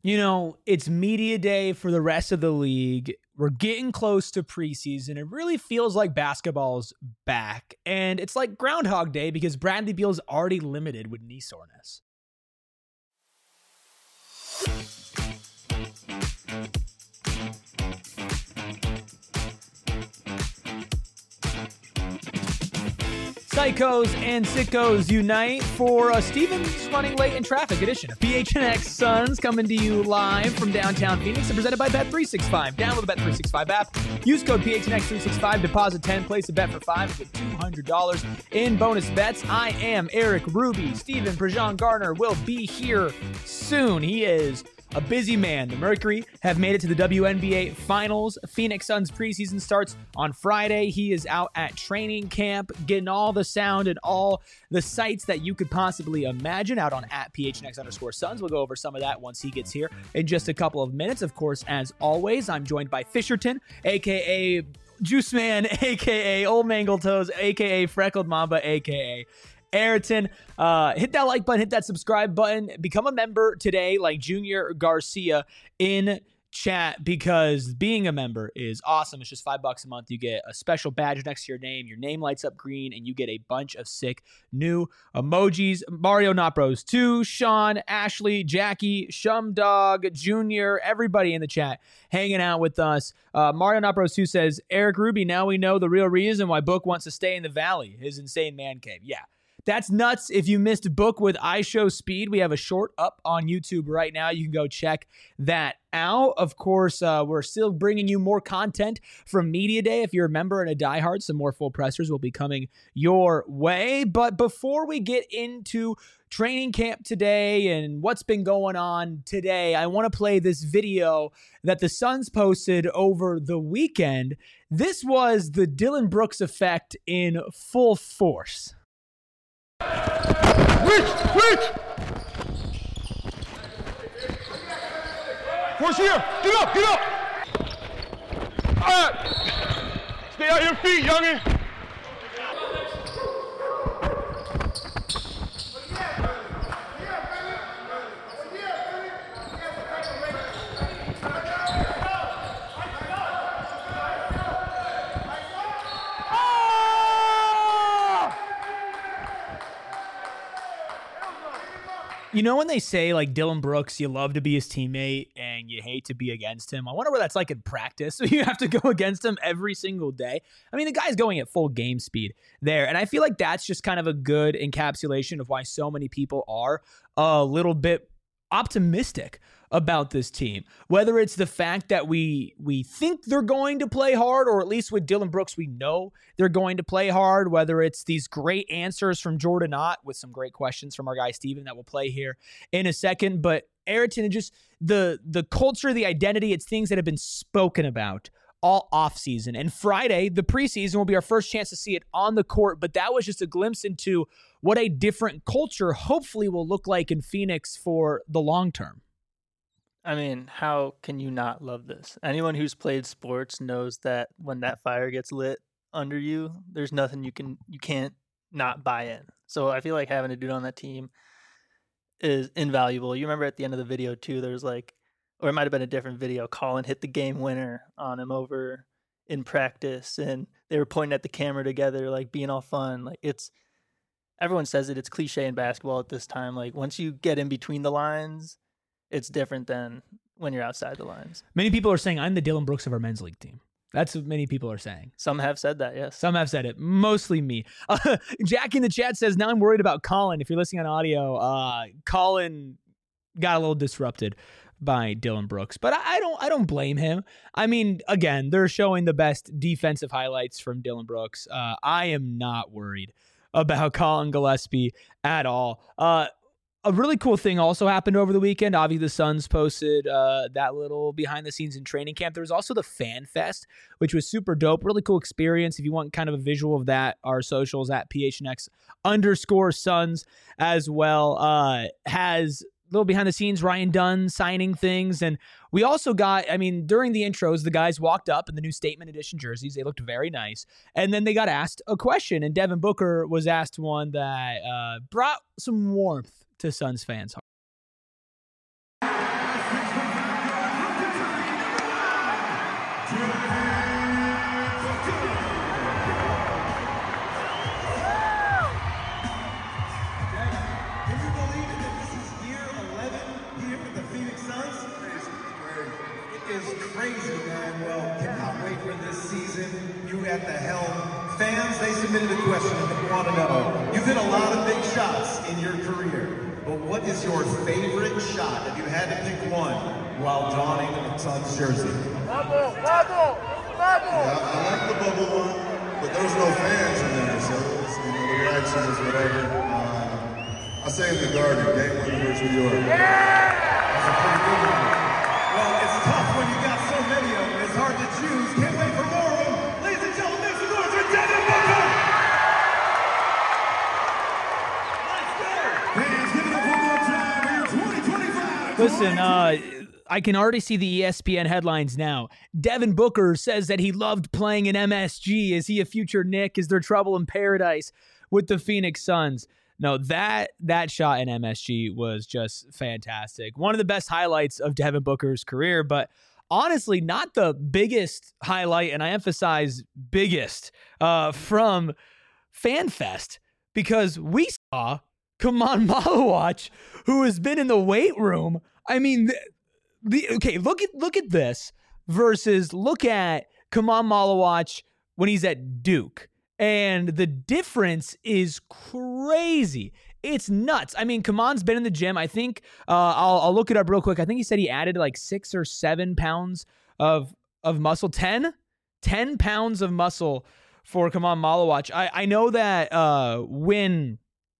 You know, it's media day for the rest of the league. We're getting close to preseason. It really feels like basketball's back. And it's like Groundhog Day because Bradley Beal's already limited with knee soreness. Psychos and sickos unite for a Stevens running late in traffic edition of PHNX Suns, coming to you live from downtown Phoenix and presented by Bet365. Download the Bet365 app. Use code PHNX365. Deposit 10. Place a bet for 5 with $200 in bonus bets. I am Eric Ruby. Steven Prejean Gardner will be here soon. He is a busy man. The Mercury have made it to the WNBA Finals. Phoenix Suns preseason starts on Friday. He is out at training camp, getting all the sound and all the sights that you could possibly imagine out on @PHNX_Suns. We'll go over some of that once he gets here in just a couple of minutes. Of course, as always, I'm joined by Fisherton, a.k.a. Juice Man, a.k.a. Old Mangle Toes, a.k.a. Freckled Mamba, a.k.a. Ayrton. Hit that like button, hit that subscribe button, become a member today like Junior Garcia in chat, because being a member is awesome. It's just $5 a month. You get a special badge next to your name lights up green, and you get a bunch of sick new emojis. Mario Not Bros 2, Sean, Ashley, Jackie, Shumdog, Junior, everybody in the chat hanging out with us. Mario Not Bros 2 says, Eric Ruby, now we know the real reason why Book wants to stay in the Valley, his insane man cave. Yeah. That's nuts. If you missed Book with iShowSpeed, we have a short up on YouTube right now. You can go check that out. Of course, we're still bringing you more content from Media Day. If you're a member and a diehard, some more full pressers will be coming your way. But before we get into training camp today and what's been going on today, I want to play this video that the Suns posted over the weekend. This was the Dillon Brooks effect in full force. Reach! Force here! Get up! Stay on your feet, youngin'! You know when they say, like, Dillon Brooks, you love to be his teammate and you hate to be against him? I wonder what that's like in practice. So you have to go against him every single day. I mean, the guy's going at full game speed there. And I feel like that's just kind of a good encapsulation of why so many people are a little bit optimistic about this team. Whether it's the fact that we think they're going to play hard, or at least with Dillon Brooks, we know they're going to play hard. Whether it's these great answers from Jordan Ott with some great questions from our guy Steven that will play here in a second. But Ayrton, just the culture, the identity, it's things that have been spoken about all offseason. And Friday, the preseason, will be our first chance to see it on the court. But that was just a glimpse into what a different culture hopefully will look like in Phoenix for the long term. I mean, how can you not love this? Anyone who's played sports knows that when that fire gets lit under you, there's nothing you can't not buy in. So I feel like having a dude on that team is invaluable. You remember at the end of the video too, there's like, or it might have been a different video, Colin hit the game winner on him over in practice, and they were pointing at the camera together, like being all fun. Like, it's, everyone says it's cliche in basketball at this time. Like, once you get in between the lines, it's different than when you're outside the lines. Many people are saying I'm the Dillon Brooks of our men's league team. That's what many people are saying. Some have said that, yes. Some have said it. Mostly me. Jack in the chat says, now I'm worried about Colin. If you're listening on audio, Colin got a little disrupted by Dillon Brooks. But I don't blame him. I mean, again, they're showing the best defensive highlights from Dillon Brooks. I am not worried about Colin Gillespie at all. A really cool thing also happened over the weekend. Obviously, the Suns posted that little behind the scenes in training camp. There was also the Fan Fest, which was super dope. Really cool experience. If you want kind of a visual of that, our socials at @PHNX_Suns as well has a little behind the scenes, Ryan Dunn signing things. And we also got, I mean, during the intros, the guys walked up in the new Statement Edition jerseys. They looked very nice. And then they got asked a question, and Devin Booker was asked one that brought some warmth to Suns fans' heart. is crazy, man. Well, cannot wait for this season. You at the helm. Fans, they submitted a question and they want to know. You've hit a lot of big shots in your career, but what is your favorite shot if you had to pick one while donning a Suns jersey? Bubble! Yeah, I like the bubble one, but there was no fans in there, so it's, the reaction was whatever. I say in the Garden, game winner versus New York. That's a pretty good one. Well, it's tough when you got so many of them. It's hard to choose. Can't wait for more of them. Ladies and gentlemen, make some noise for Devin Booker! Let's go! Fans, give it up one more time here. 2025. Listen, I can already see the ESPN headlines now. Devin Booker says that he loved playing in MSG. Is he a future Knick? Is there trouble in paradise with the Phoenix Suns? No, that shot in MSG was just fantastic. One of the best highlights of Devin Booker's career, but honestly, not the biggest highlight, and I emphasize biggest, from FanFest, because we saw Kaman Malawach, who has been in the weight room. I mean, okay, look at this versus look at Kaman Malawach when he's at Duke. And the difference is crazy. It's nuts. I mean, Kaman's been in the gym. I think I'll look it up real quick. I think he said he added like 6 or 7 pounds of muscle. 10 pounds of muscle for Kaman Malawach. I know that when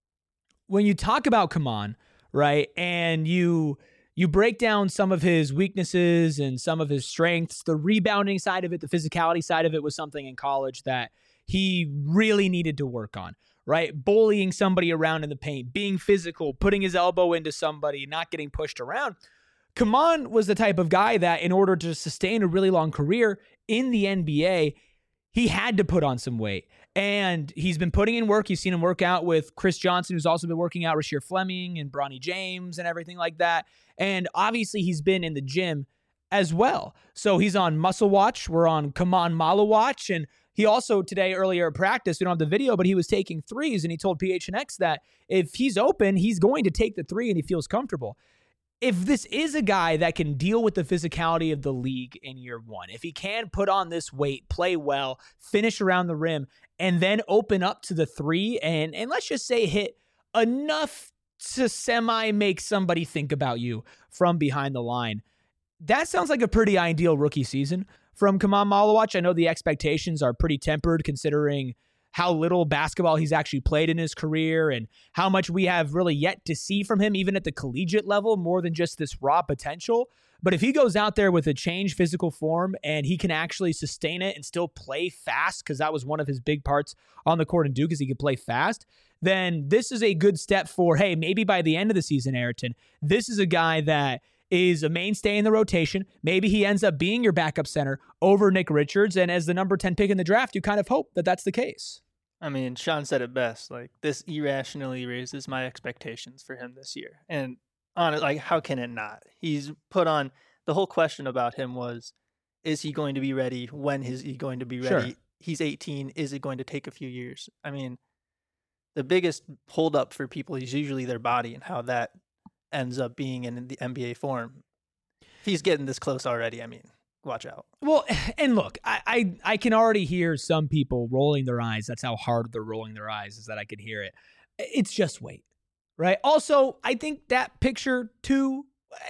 you talk about Kaman, right, and you break down some of his weaknesses and some of his strengths, the rebounding side of it, the physicality side of it was something in college that he really needed to work on, right? Bullying somebody around in the paint, being physical, putting his elbow into somebody, not getting pushed around. Kaman was the type of guy that in order to sustain a really long career in the NBA, he had to put on some weight. And he's been putting in work. You've seen him work out with Chris Johnson, who's also been working out Rasheer Fleming and Bronny James and everything like that. And obviously he's been in the gym as well. So he's on Muscle Watch. We're on Kaman Malawach. And he also today, earlier at practice, we don't have the video, but he was taking threes, and he told PHNX that if he's open, he's going to take the three and he feels comfortable. If this is a guy that can deal with the physicality of the league in year one, if he can put on this weight, play well, finish around the rim, and then open up to the three, and let's just say hit enough to semi make somebody think about you from behind the line, that sounds like a pretty ideal rookie season from Kaman Malawach. I know the expectations are pretty tempered considering how little basketball he's actually played in his career and how much we have really yet to see from him, even at the collegiate level, more than just this raw potential. But if he goes out there with a changed physical form and he can actually sustain it and still play fast, because that was one of his big parts on the court in Duke, is he could play fast, then this is a good step for, hey, maybe by the end of the season, Ayrton, this is a guy that is a mainstay in the rotation. Maybe he ends up being your backup center over Nick Richards. And as the number 10 pick in the draft, you kind of hope that that's the case. I mean, Sean said it best. Like, this irrationally raises my expectations for him this year. And on it, like, how can it not? He's put on, the whole question about him was, is he going to be ready? When is he going to be ready? Sure. He's 18. Is it going to take a few years? I mean, the biggest holdup for people is usually their body and how that ends up being in the NBA form. If he's getting this close already, I mean, watch out. Well, and look, I can already hear some people rolling their eyes. That's how hard they're rolling their eyes, is that I can hear it. It's just weight, right? Also, I think that picture too,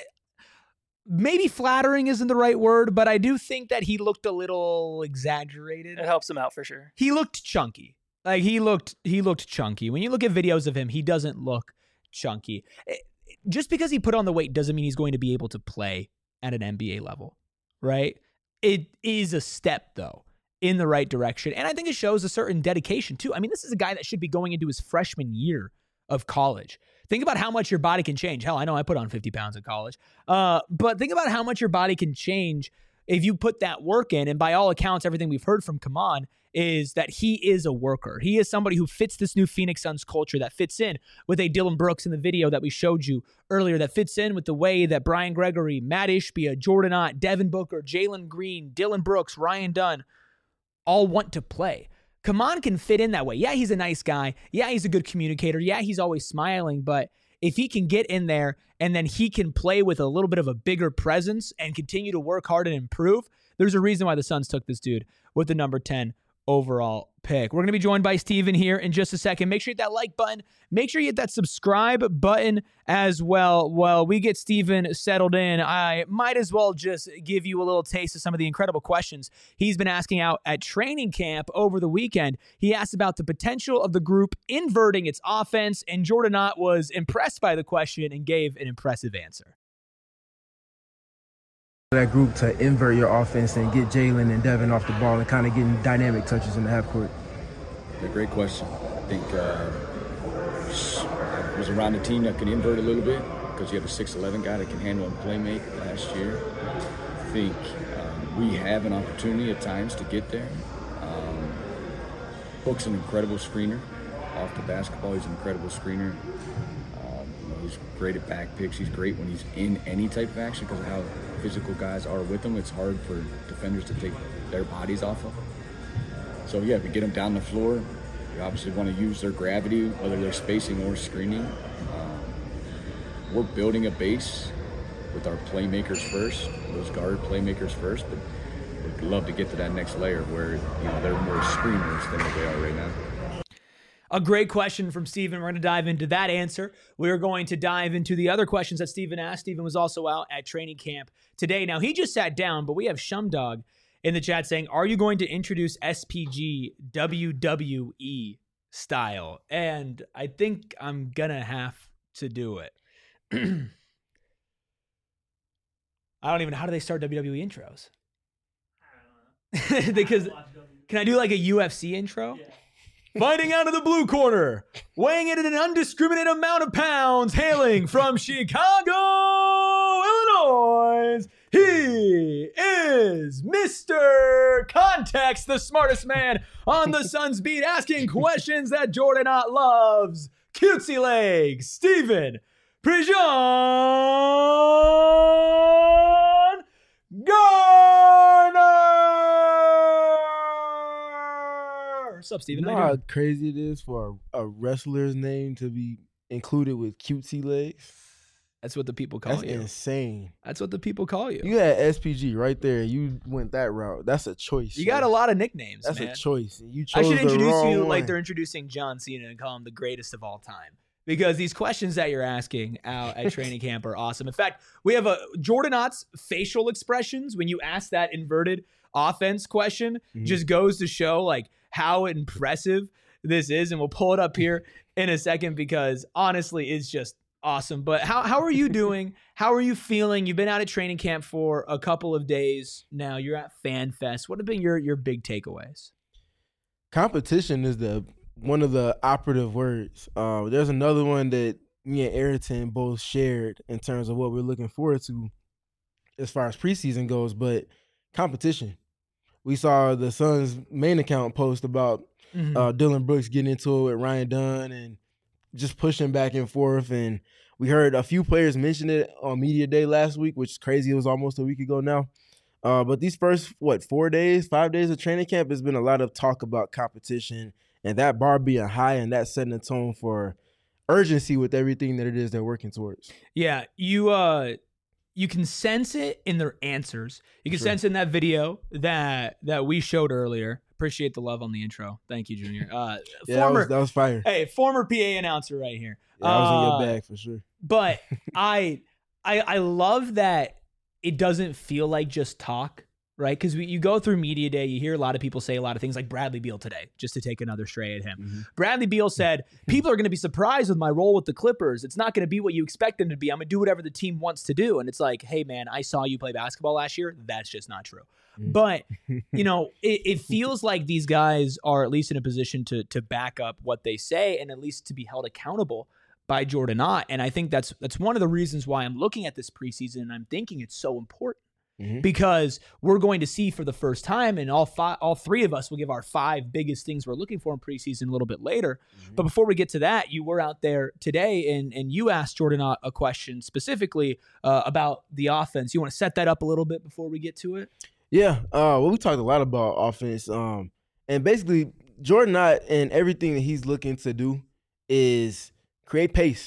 maybe flattering isn't the right word, but I do think that he looked a little exaggerated. It helps him out for sure. He looked chunky. Like he looked chunky. When you look at videos of him, he doesn't look chunky. Just because he put on the weight doesn't mean he's going to be able to play at an NBA level, right? It is a step, though, in the right direction. And I think it shows a certain dedication, too. I mean, this is a guy that should be going into his freshman year of college. Think about how much your body can change. Hell, I know I put on 50 pounds in college. But think about how much your body can change if you put that work in. And by all accounts, everything we've heard from Kaman is that he is a worker. He is somebody who fits this new Phoenix Suns culture, that fits in with a Dillon Brooks in the video that we showed you earlier, that fits in with the way that Brian Gregory, Matt Ishbia, Jordan Ott, Devin Booker, Jalen Green, Dillon Brooks, Ryan Dunn all want to play. Kaman can fit in that way. Yeah, he's a nice guy. Yeah, he's a good communicator. Yeah, he's always smiling, but if he can get in there and then he can play with a little bit of a bigger presence and continue to work hard and improve, there's a reason why the Suns took this dude with the number 10 overall pick. We're going to be joined by Steven here in just a second. Make sure you hit that like button. Make sure you hit that subscribe button as well. While we get Steven settled in, I might as well just give you a little taste of some of the incredible questions he's been asking out at training camp over the weekend. He asked about the potential of the group inverting its offense, and Jordan Ott was impressed by the question and gave an impressive answer. That group to invert your offense and get Jalen and Devin off the ball and kind of getting dynamic touches in the half court? A great question. I think I was around a team that could invert a little bit because you have a 6'11" guy that can handle and play make last year. I think we have an opportunity at times to get there. Book's an incredible screener. Off the basketball, he's an incredible screener. He's great at back picks. He's great when he's in any type of action because of how physical guys are with him. It's hard for defenders to take their bodies off of him. So yeah, if we get them down the floor, we obviously want to use their gravity, whether they're spacing or screening. We're building a base with our playmakers first, those guard playmakers first, but we'd love to get to that next layer where they're more screeners than what they are right now. A great question from Steven. We're going to dive into that answer. We're going to dive into the other questions that Steven asked. Steven was also out at training camp today. Now, he just sat down, but we have Shumdog in the chat saying, are you going to introduce SPG WWE style? And I think I'm going to have to do it. I don't even know. How do they start WWE intros? I don't know. Because can I do like a UFC intro? Yeah. Fighting out of the blue corner, weighing in at an undiscriminated amount of pounds, hailing from Chicago, Illinois, he is Mr. Context, the smartest man on the Suns beat, asking questions that Jordan Ott loves. Cutesy legs, Steven Prejean Garner. What's up, Steven? You know how crazy it is for a wrestler's name to be included with cutesy legs? That's what the people call you. That's insane. That's what the people call you. You had SPG right there. You went that route. That's a choice. You got a lot of nicknames, That's man. a choice. You chose I should introduce you one. like they're introducing John Cena and call him the greatest of all time. Because these questions that you're asking out at training camp are awesome. In fact, we have Jordan Ott's facial expressions when you ask that inverted offense question just goes to show like how impressive this is. And we'll pull it up here in a second because honestly, it's just awesome. But how are you doing? How are you feeling? You've been out at training camp for a couple of days now. You're at Fan Fest. What have been your big takeaways? Competition is one of the operative words. There's another one that me and Ayrton both shared in terms of what we're looking forward to as far as preseason goes, but competition. We saw the Suns main account post about Dylan Brooks getting into it with Ryan Dunn and just pushing back and forth. And we heard a few players mention it on Media Day last week, which is crazy. It was almost a week ago now. But these first, 5 days of training camp, has been a lot of talk about competition and that bar being high and that setting a tone for urgency with everything that it is they're working towards. Yeah, you can sense it in their answers. You can sense it in that video that we showed earlier. Appreciate the love on the intro. Thank you, Junior. That was fire. Hey, former PA announcer right here. Yeah, I was in your bag for sure. But I love that it doesn't feel like just talk, right? Because you go through Media Day, you hear a lot of people say a lot of things like Bradley Beal today, just to take another stray at him. Bradley Beal said, people are going to be surprised with my role with the Clippers. It's not going to be what you expect them to be. I'm going to do whatever the team wants to do. And it's like, hey, man, I saw you play basketball last year. That's just not true. But, it feels like these guys are at least in a position to back up what they say and at least to be held accountable by Jordan Ott. And I think that's one of the reasons why I'm looking at this preseason and I'm thinking it's so important. Because we're going to see for the first time, and all three of us will give our 5 biggest things we're looking for in preseason a little bit later. But before we get to that, you were out there today, and you asked Jordan a question specifically about the offense. You want to set that up a little bit before we get to it? Yeah, well, we talked a lot about offense, and basically Jordan Ott and everything that he's looking to do is create pace.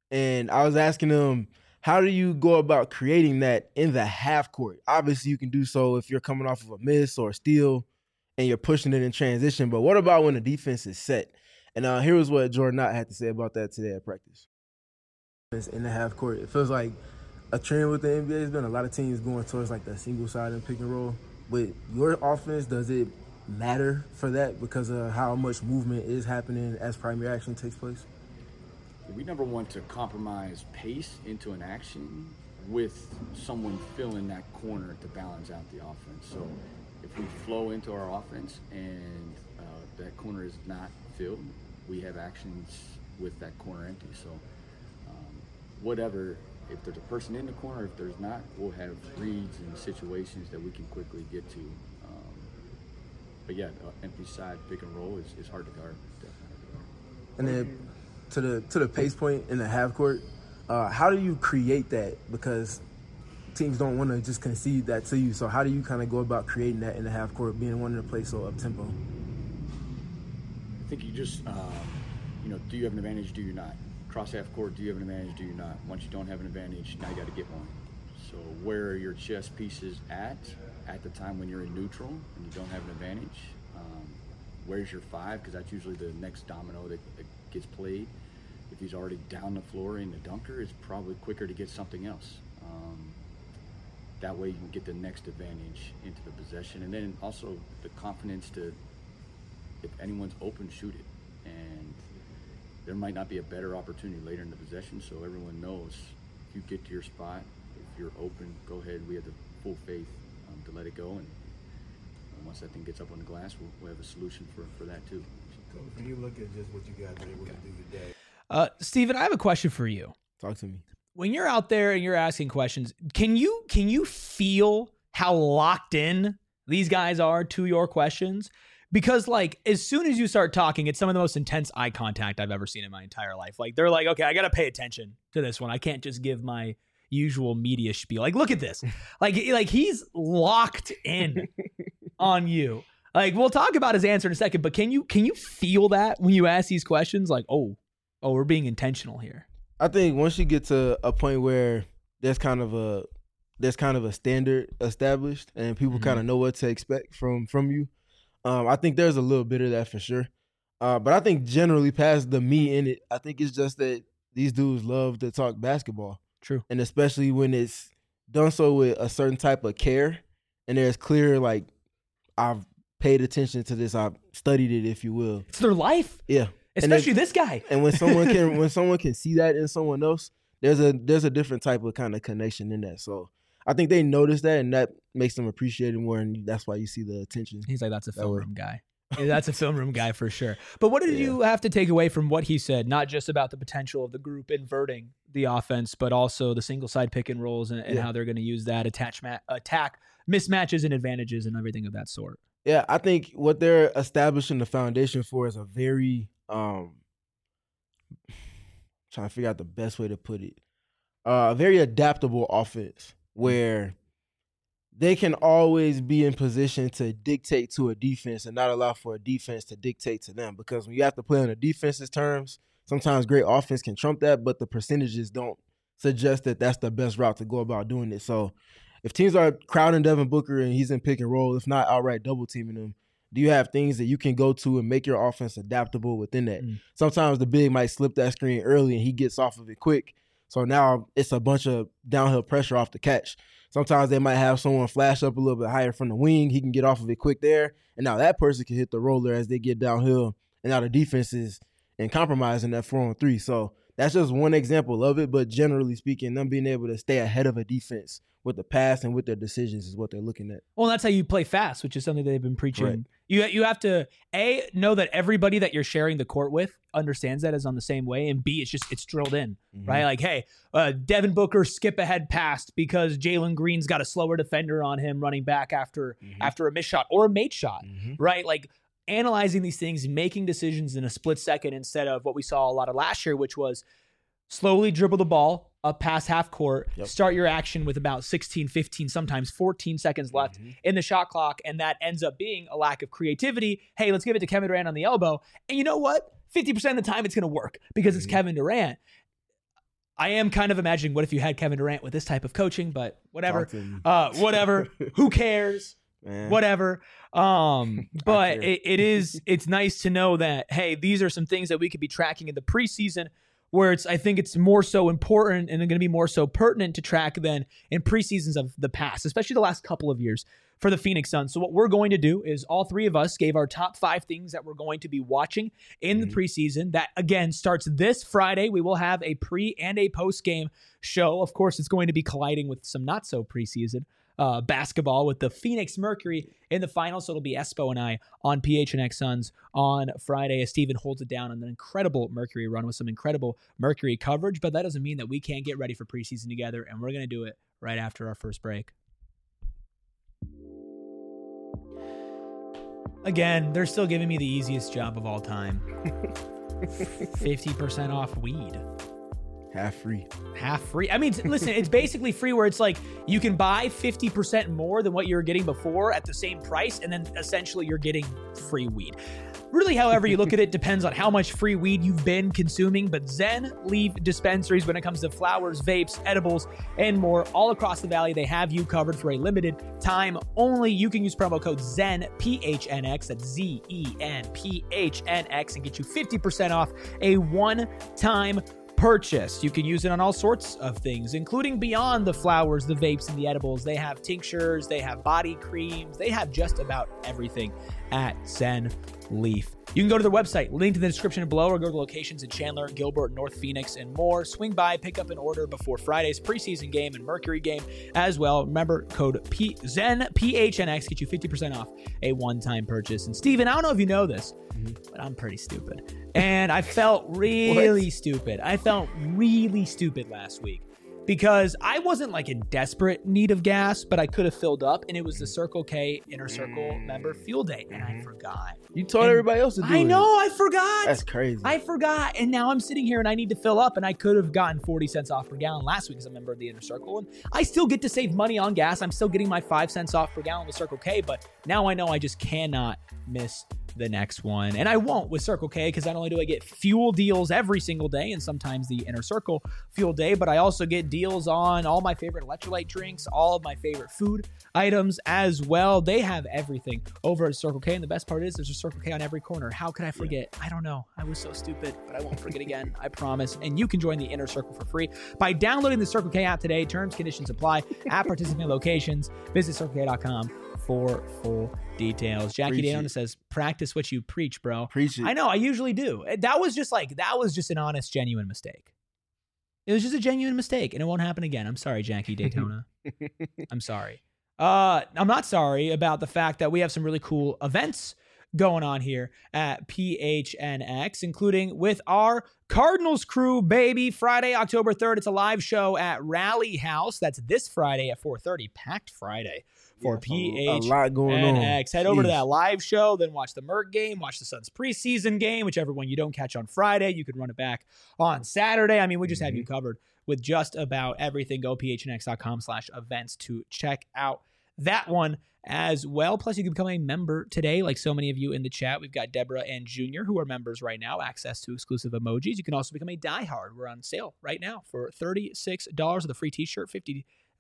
And I was asking him, how do you go about creating that in the half court? Obviously, you can do so if you're coming off of a miss or a steal and you're pushing it in transition. But what about when the defense is set? And here was what Jordan Knott had to say about that today at practice. In the half court, it feels like a trend with the NBA has been a lot of teams going towards like the single side and pick and roll. With your offense, does it matter for that because of how much movement is happening as primary action takes place? We never want to compromise pace into an action with someone filling that corner to balance out the offense. So if we flow into our offense and that corner is not filled, we have actions with that corner empty. So whatever, if there's a person in the corner, if there's not, we'll have reads and situations that we can quickly get to. But yeah, empty side pick and roll is hard to guard, definitely. And then to the pace point in the half court, how do you create that? Because teams don't want to just concede that to you. So how do you kind of go about creating that in the half court, being one to play so up tempo? I think you just, do you have an advantage? Do you not? Cross half court, do you have an advantage? Do you not? Once you don't have an advantage, now you got to get one. So where are your chess pieces at the time when you're in neutral and you don't have an advantage? Where's your five? Because that's usually the next domino that gets played. If he's already down the floor in the dunker, it's probably quicker to get something else. That way you can get the next advantage into the possession. And then also the confidence to, if anyone's open, shoot it. And there might not be a better opportunity later in the possession, so everyone knows if you get to your spot, if you're open, go ahead. We have the full faith to let it go. And once that thing gets up on the glass, we'll have a solution for that too. Coach, when you look at just what you guys were able to do today. Steven, I have a question for you. Talk to me. When you're out there and you're asking questions, can you feel how locked in these guys are to your questions? Because like as soon as you start talking, it's some of the most intense eye contact I've ever seen in my entire life. Like they're like, okay, I got to pay attention to this one. I can't just give my usual media spiel. Like, look at this. Like he's locked in on you. Like we'll talk about his answer in a second, but can you feel that when you ask these questions? Like, oh, we're being intentional here. I think once you get to a point where there's kind of a standard established and people kind of know what to expect from you, I think there's a little bit of that for sure. But I think generally past the me in it, I think it's just that these dudes love to talk basketball. True. And especially when it's done so with a certain type of care and there's clear, like, I've paid attention to this, I've studied it, if you will. It's their life. Yeah. Especially this guy. And when someone can see that in someone else, there's a different type of kind of connection in that. So I think they notice that, and that makes them appreciate it more, and that's why you see the attention. He's like, that's a film room guy. That's a film room guy for sure. But what did you have to take away from what he said, not just about the potential of the group inverting the offense, but also the single side pick and rolls and how they're going to use that attack mismatches and advantages and everything of that sort? Yeah, I think what they're establishing the foundation for is a very trying to figure out the best way to put it. A very adaptable offense where they can always be in position to dictate to a defense and not allow for a defense to dictate to them. Because when you have to play on the defense's terms, sometimes great offense can trump that, but the percentages don't suggest that that's the best route to go about doing it. So if teams are crowding Devin Booker and he's in pick and roll, if not outright double teaming him, do you have things that you can go to and make your offense adaptable within that? Sometimes the big might slip that screen early and he gets off of it quick. So now it's a bunch of downhill pressure off the catch. Sometimes they might have someone flash up a little bit higher from the wing. He can get off of it quick there. And now that person can hit the roller as they get downhill. And now the defense is in compromising that 4-on-3. So that's just one example of it. But generally speaking, them being able to stay ahead of a defense with the pass and with their decisions is what they're looking at. Well, that's how you play fast, which is something they've been preaching. Right. You have to, A, know that everybody that you're sharing the court with understands that is on the same way, and B, it's drilled in, right? Like, hey, Devin Booker skip ahead passed because Jalen Green's got a slower defender on him running back after a missed shot or a made shot, right? Like, analyzing these things, making decisions in a split second instead of what we saw a lot of last year, which was slowly dribble the ball up past half court, start your action with about 16, 15, sometimes 14 seconds left in the shot clock, and that ends up being a lack of creativity. Hey, let's give it to Kevin Durant on the elbow. And you know what? 50% of the time it's going to work because it's Kevin Durant. I am kind of imagining what if you had Kevin Durant with this type of coaching, but whatever. Talk to me. Whatever. Who cares? Man. Whatever. But it's nice to know that, hey, these are some things that we could be tracking in the preseason where I think it's more so important and going to be more so pertinent to track than in preseasons of the past, especially the last couple of years for the Phoenix Suns. So what we're going to do is all three of us gave our top 5 things that we're going to be watching in the preseason. That, again, starts this Friday. We will have a pre and a post-game show. Of course, it's going to be colliding with some not-so-preseason basketball with the Phoenix Mercury in the finals. So it'll be Espo and I on PHNX Suns on Friday as Steven holds it down on an incredible Mercury run with some incredible Mercury coverage. But that doesn't mean that we can't get ready for preseason together, and we're going to do it right after our first break. Again, they're still giving me the easiest job of all time. 50% off weed. Half free. Half free. I mean, listen, it's basically free where it's like you can buy 50% more than what you were getting before at the same price, and then essentially you're getting free weed. Really, however you look at it, depends on how much free weed you've been consuming, but Zen Leaf dispensaries, when it comes to flowers, vapes, edibles, and more, all across the valley, they have you covered for a limited time only. You can use promo code ZEN, PHNX, that's ZEN, PHNX, and get you 50% off a one-time purchase. You can use it on all sorts of things, including beyond the flowers, the vapes, and the edibles. They have tinctures, they have body creams, they have just about everything at Zen Leaf. You can go to their website, linked in the description below, or go to the locations in Chandler, Gilbert, North Phoenix, and more. Swing by, pick up an order before Friday's preseason game and Mercury game as well. Remember, code ZEN, PHNX, get you 50% off a one-time purchase. And Steven, I don't know if you know this, but I'm pretty stupid. And I felt really stupid. I felt really stupid last week because I wasn't like in desperate need of gas, but I could have filled up, and it was the Circle K Inner Circle member fuel day, and I forgot. You told everybody else to do it. I know, I forgot. That's crazy. I forgot, and now I'm sitting here and I need to fill up, and I could have gotten 40 cents off per gallon last week as a member of the Inner Circle, and I still get to save money on gas. I'm still getting my 5 cents off per gallon with Circle K, but now I know I just cannot miss the next one. And I won't with Circle K, because not only do I get fuel deals every single day and sometimes the Inner Circle fuel day, but I also get deals on all my favorite electrolyte drinks, all of my favorite food items as well. They have everything over at Circle K, and the best part is there's a Circle K on every corner. How could I forget? I don't know. I was so stupid, but I won't forget again. I promise. And you can join the Inner Circle for free by downloading the Circle K app today. Terms, conditions apply at participating locations. Visit CircleK.com for full details. Jackie Dayona says, practice what you preach, bro. Preach it. I know, I usually do. That was just an honest, genuine mistake. It was just a genuine mistake, and it won't happen again. I'm sorry, Jackie Daytona. I'm sorry. I'm not sorry about the fact that we have some really cool events going on here at PHNX, including with our Cardinals crew, baby. Friday, October 3rd, it's a live show at Rally House. That's this Friday at 4:30. Packed Friday for PHNX. A lot going on. Head over to that live show, then watch the Merc game, watch the Suns preseason game, whichever one you don't catch on Friday. You can run it back on Saturday. I mean, we just have you covered with just about everything. Go phnx.com/events to check out that one as well. Plus, you can become a member today, like so many of you in the chat. We've got Deborah and Junior who are members right now, access to exclusive emojis. You can also become a diehard. We're on sale right now for $36 with a free t-shirt, $9,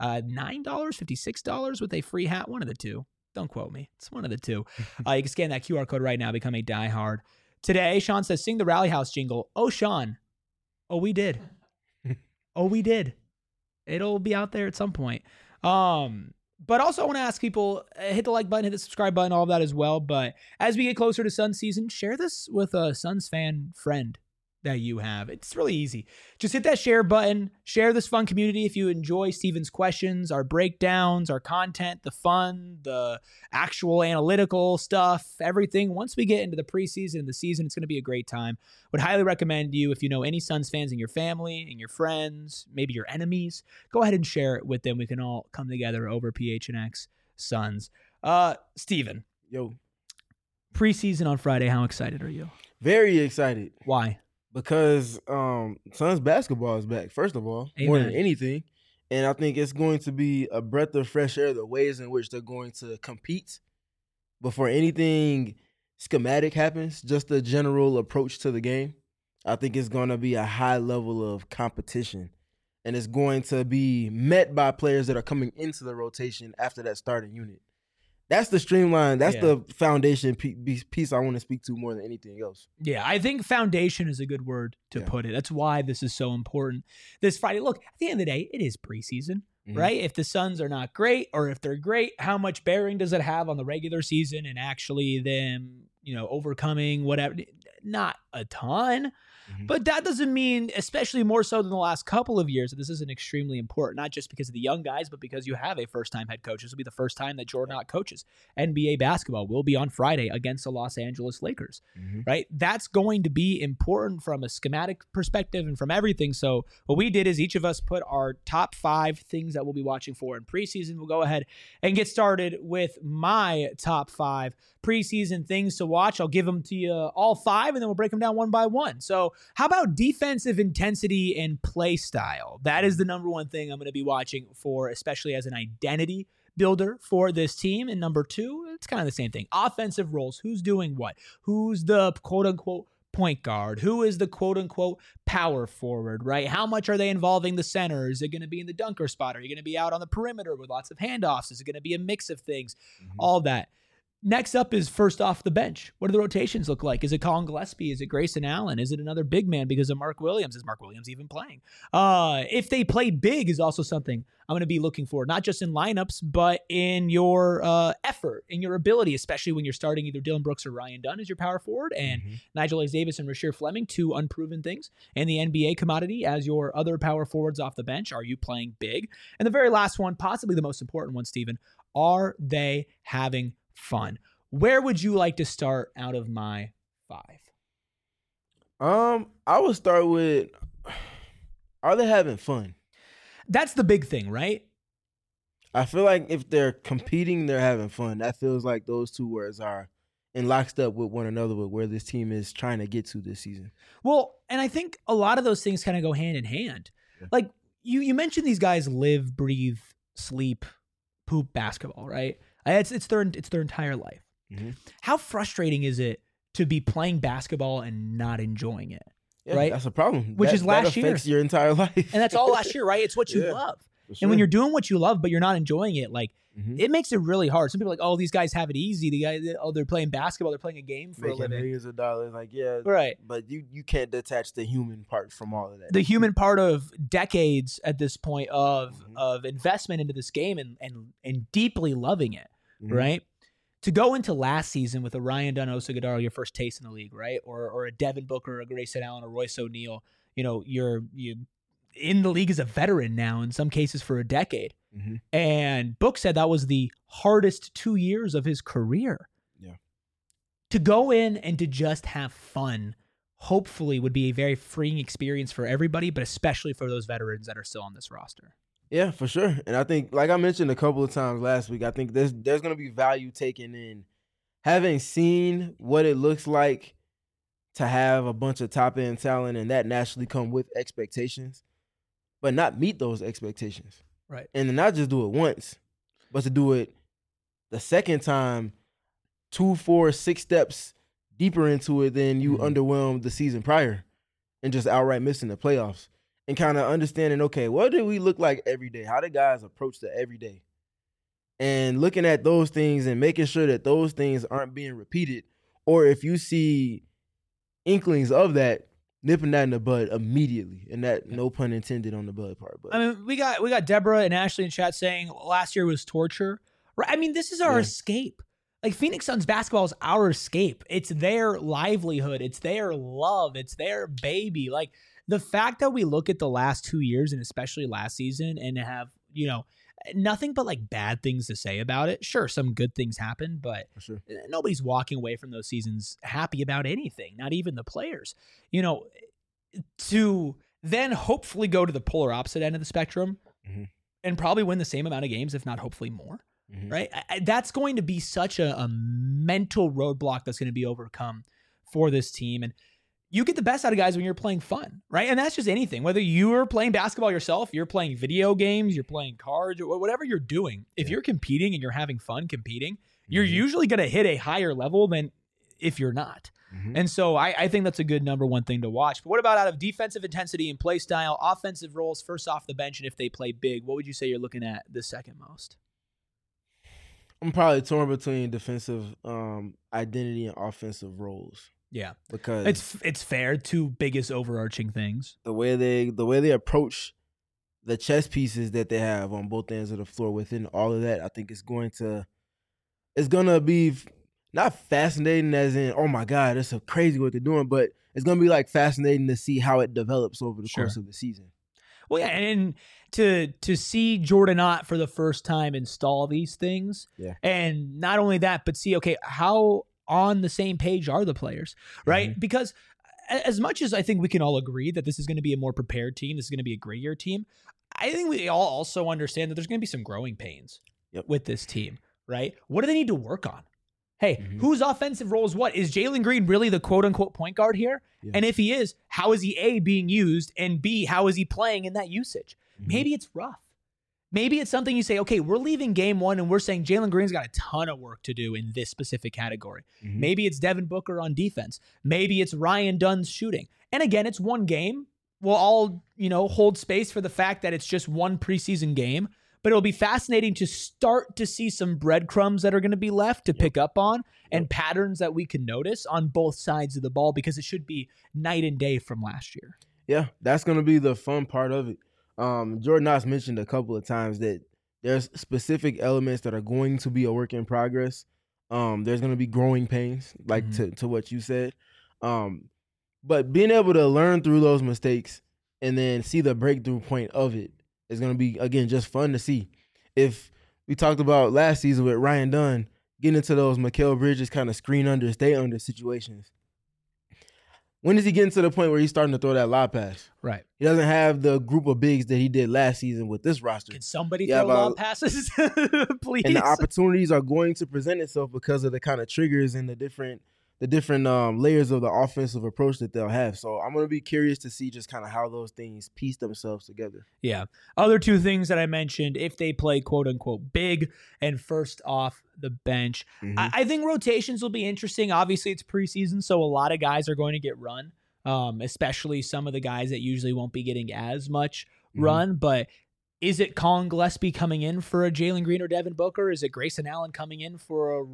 $56 with a free hat, one of the two. Don't quote me. It's one of the two. You can scan that QR code right now, become a diehard. Today, Sean says, sing the Rally House jingle. Oh, Sean. Oh, we did. Oh, we did. It'll be out there at some point. But also, I want to ask people, hit the like button, hit the subscribe button, all of that as well. But as we get closer to Suns season, share this with a Suns fan friend that you have. It's really easy. Just hit that share button, share this fun community if you enjoy Steven's questions, our breakdowns, our content, the fun, the actual analytical stuff, everything. Once we get into the preseason and the season, it's going to be a great time. Would highly recommend you, if you know any Suns fans in your family, and your friends, maybe your enemies, go ahead and share it with them. We can all come together over PHNX Suns. Steven. Yo. Preseason on Friday, how excited are you? Very excited. Why? Because Suns basketball is back, first of all, more than anything. And I think it's going to be a breath of fresh air, the ways in which they're going to compete before anything schematic happens, just the general approach to the game. I think it's going to be a high level of competition. and it's going to be met by players that are coming into the rotation after that starting unit. That's the streamline. That's the foundation piece I want to speak to more than anything else. Yeah, I think foundation is a good word to put it. That's why this is so important this Friday. Look, at the end of the day, it is preseason, right? If the Suns are not great or if they're great, how much bearing does it have on the regular season and actually them, overcoming whatever? Not a ton. But that doesn't mean, especially more so than the last couple of years, that this isn't extremely important, not just because of the young guys, but because you have a first-time head coach. This will be the first time that Jordan Ott coaches NBA basketball. Will be on Friday against the Los Angeles Lakers, right? That's going to be important from a schematic perspective and from everything. So what we did is each of us put our top 5 things that we'll be watching for in preseason. We'll go ahead and get started with my top 5 preseason things to watch. I'll give them to you all 5, and then we'll break them down one by one. So how about defensive intensity and play style? That is the number one thing I'm going to be watching for, especially as an identity builder for this team. And number 2, it's kind of the same thing. Offensive roles. Who's doing what? Who's the quote-unquote point guard? Who is the quote-unquote power forward, right? How much are they involving the center? Is it going to be in the dunker spot? Are you going to be out on the perimeter with lots of handoffs? Is it going to be a mix of things? All that. Next up is first off the bench. What do the rotations look like? Is it Colin Gillespie? Is it Grayson Allen? Is it another big man because of Mark Williams? Is Mark Williams even playing? If they play big is also something I'm going to be looking for, not just in lineups, but in your effort, in your ability, especially when you're starting either Dylan Brooks or Ryan Dunn as your power forward and Nigel Davis and Rasheer Fleming, 2 unproven things, and the NBA commodity as your other power forwards off the bench. Are you playing big? And the very last one, possibly the most important one, Stephen, are they having fun? Where would you like to start out of my 5? I would start with, are they having fun? That's the big thing, right? I feel like if they're competing, they're having fun. That feels like those 2 words are in lockstep with one another with where this team is trying to get to this season. Well, and I think a lot of those things kind of go hand in hand. Yeah. Like you mentioned, these guys live, breathe, sleep, poop basketball, right? It's their entire life. How frustrating is it to be playing basketball and not enjoying it? Yeah, right? That's a problem. Which is last year. That affects your entire life. And that's all last year, right? It's what you love. Sure. And when you're doing what you love, but you're not enjoying it, like it makes it really hard. Some people are like, oh, these guys have it easy. The guys, they're playing basketball. They're playing a game for a living. Millions of dollars. Like, yeah. Right. But you can't detach the human part from all of that. The human part of decades at this point of investment into this game and deeply loving it, right? To go into last season with a Ryan Dunn, Oso Ighodaro, your first taste in the league, right? Or a Devin Booker, a Grayson Allen, or Royce O'Neal, you're in the league as a veteran now, in some cases for a decade. And Book said that was the hardest 2 years of his career. Yeah. To go in and to just have fun, hopefully would be a very freeing experience for everybody, but especially for those veterans that are still on this roster. Yeah, for sure. And I think, like I mentioned a couple of times last week, I think there's going to be value taken in having seen what it looks like to have a bunch of top-end talent and that naturally come with expectations, but not meet those expectations. Right. And to not just do it once, but to do it the second time 2, 4, 6 steps deeper into it than you underwhelmed the season prior and just outright missing the playoffs. And kind of understanding, okay, what do we look like every day? How do guys approach the everyday? And looking at those things and making sure that those things aren't being repeated. Or if you see inklings of that, nipping that in the bud immediately. And that, no pun intended on the bud part. But I mean, we got Deborah and Ashley in chat saying last year was torture. Right? I mean, this is our escape. Like, Phoenix Suns basketball is our escape. It's their livelihood. It's their love. It's their baby. Like, the fact that we look at the last 2 years and especially last season and have, nothing but like bad things to say about it. Sure, some good things happen, but nobody's walking away from those seasons happy about anything, not even the players. To then hopefully go to the polar opposite end of the spectrum and probably win the same amount of games, if not hopefully more, right? That's going to be such a mental roadblock that's going to be overcome for this team. And you get the best out of guys when you're playing fun, right? And that's just anything. Whether you're playing basketball yourself, you're playing video games, you're playing cards, or whatever you're doing. If you're competing and you're having fun competing, you're usually going to hit a higher level than if you're not, And so I think that's a good number one thing to watch. But what about out of defensive intensity and play style, offensive roles first off the bench, and if they play big, what would you say you're looking at the second most? I'm probably torn between defensive identity and offensive roles. Yeah, because it's fair. Two biggest overarching things. The way they approach the chess pieces that they have on both ends of the floor within all of that, I think it's gonna be not fascinating as in, oh my God, that's so crazy what they're doing, but it's gonna be like fascinating to see how it develops over the course of the season. Well, yeah, and to see Jordan Ott for the first time install these things, and not only that, but see, okay, how on the same page are the players, right? Because as much as I think we can all agree that this is going to be a more prepared team, this is going to be a grittier team, I think we all also understand that there's going to be some growing pains with this team, right? What do they need to work on? Hey, whose offensive role is what? Is Jalen Green really the quote-unquote point guard here? Yeah. And if he is, how is he A, being used, and B, how is he playing in that usage? Maybe it's rough. Maybe it's something you say, okay, we're leaving game one and we're saying Jalen Green's got a ton of work to do in this specific category. Maybe it's Devin Booker on defense. Maybe it's Ryan Dunn's shooting. And again, it's one game. We'll all, hold space for the fact that it's just one preseason game. But it'll be fascinating to start to see some breadcrumbs that are going to be left to pick up on and patterns that we can notice on both sides of the ball, because it should be night and day from last year. Yeah, that's going to be the fun part of it. Jordan Knox mentioned a couple of times that there's specific elements that are going to be a work in progress. There's going to be growing pains, like to what you said. But being able to learn through those mistakes and then see the breakthrough point of it is going to be, again, just fun to see. If we talked about last season with Ryan Dunn getting into those Mikal Bridges kind of screen under, stay under situations, when is he getting to the point where he's starting to throw that lob pass? Right. He doesn't have the group of bigs that he did last season with this roster. Can somebody throw lob passes, please? And the opportunities are going to present itself because of the kind of triggers and the different layers of the offensive approach that they'll have. So I'm going to be curious to see just kind of how those things piece themselves together. Yeah. Other two things that I mentioned, if they play quote unquote big and first off the bench, I think rotations will be interesting. Obviously it's preseason, so a lot of guys are going to get run, especially some of the guys that usually won't be getting as much run. But is it Colin Gillespie coming in for a Jalen Green or Devin Booker? Is it Grayson Allen coming in for a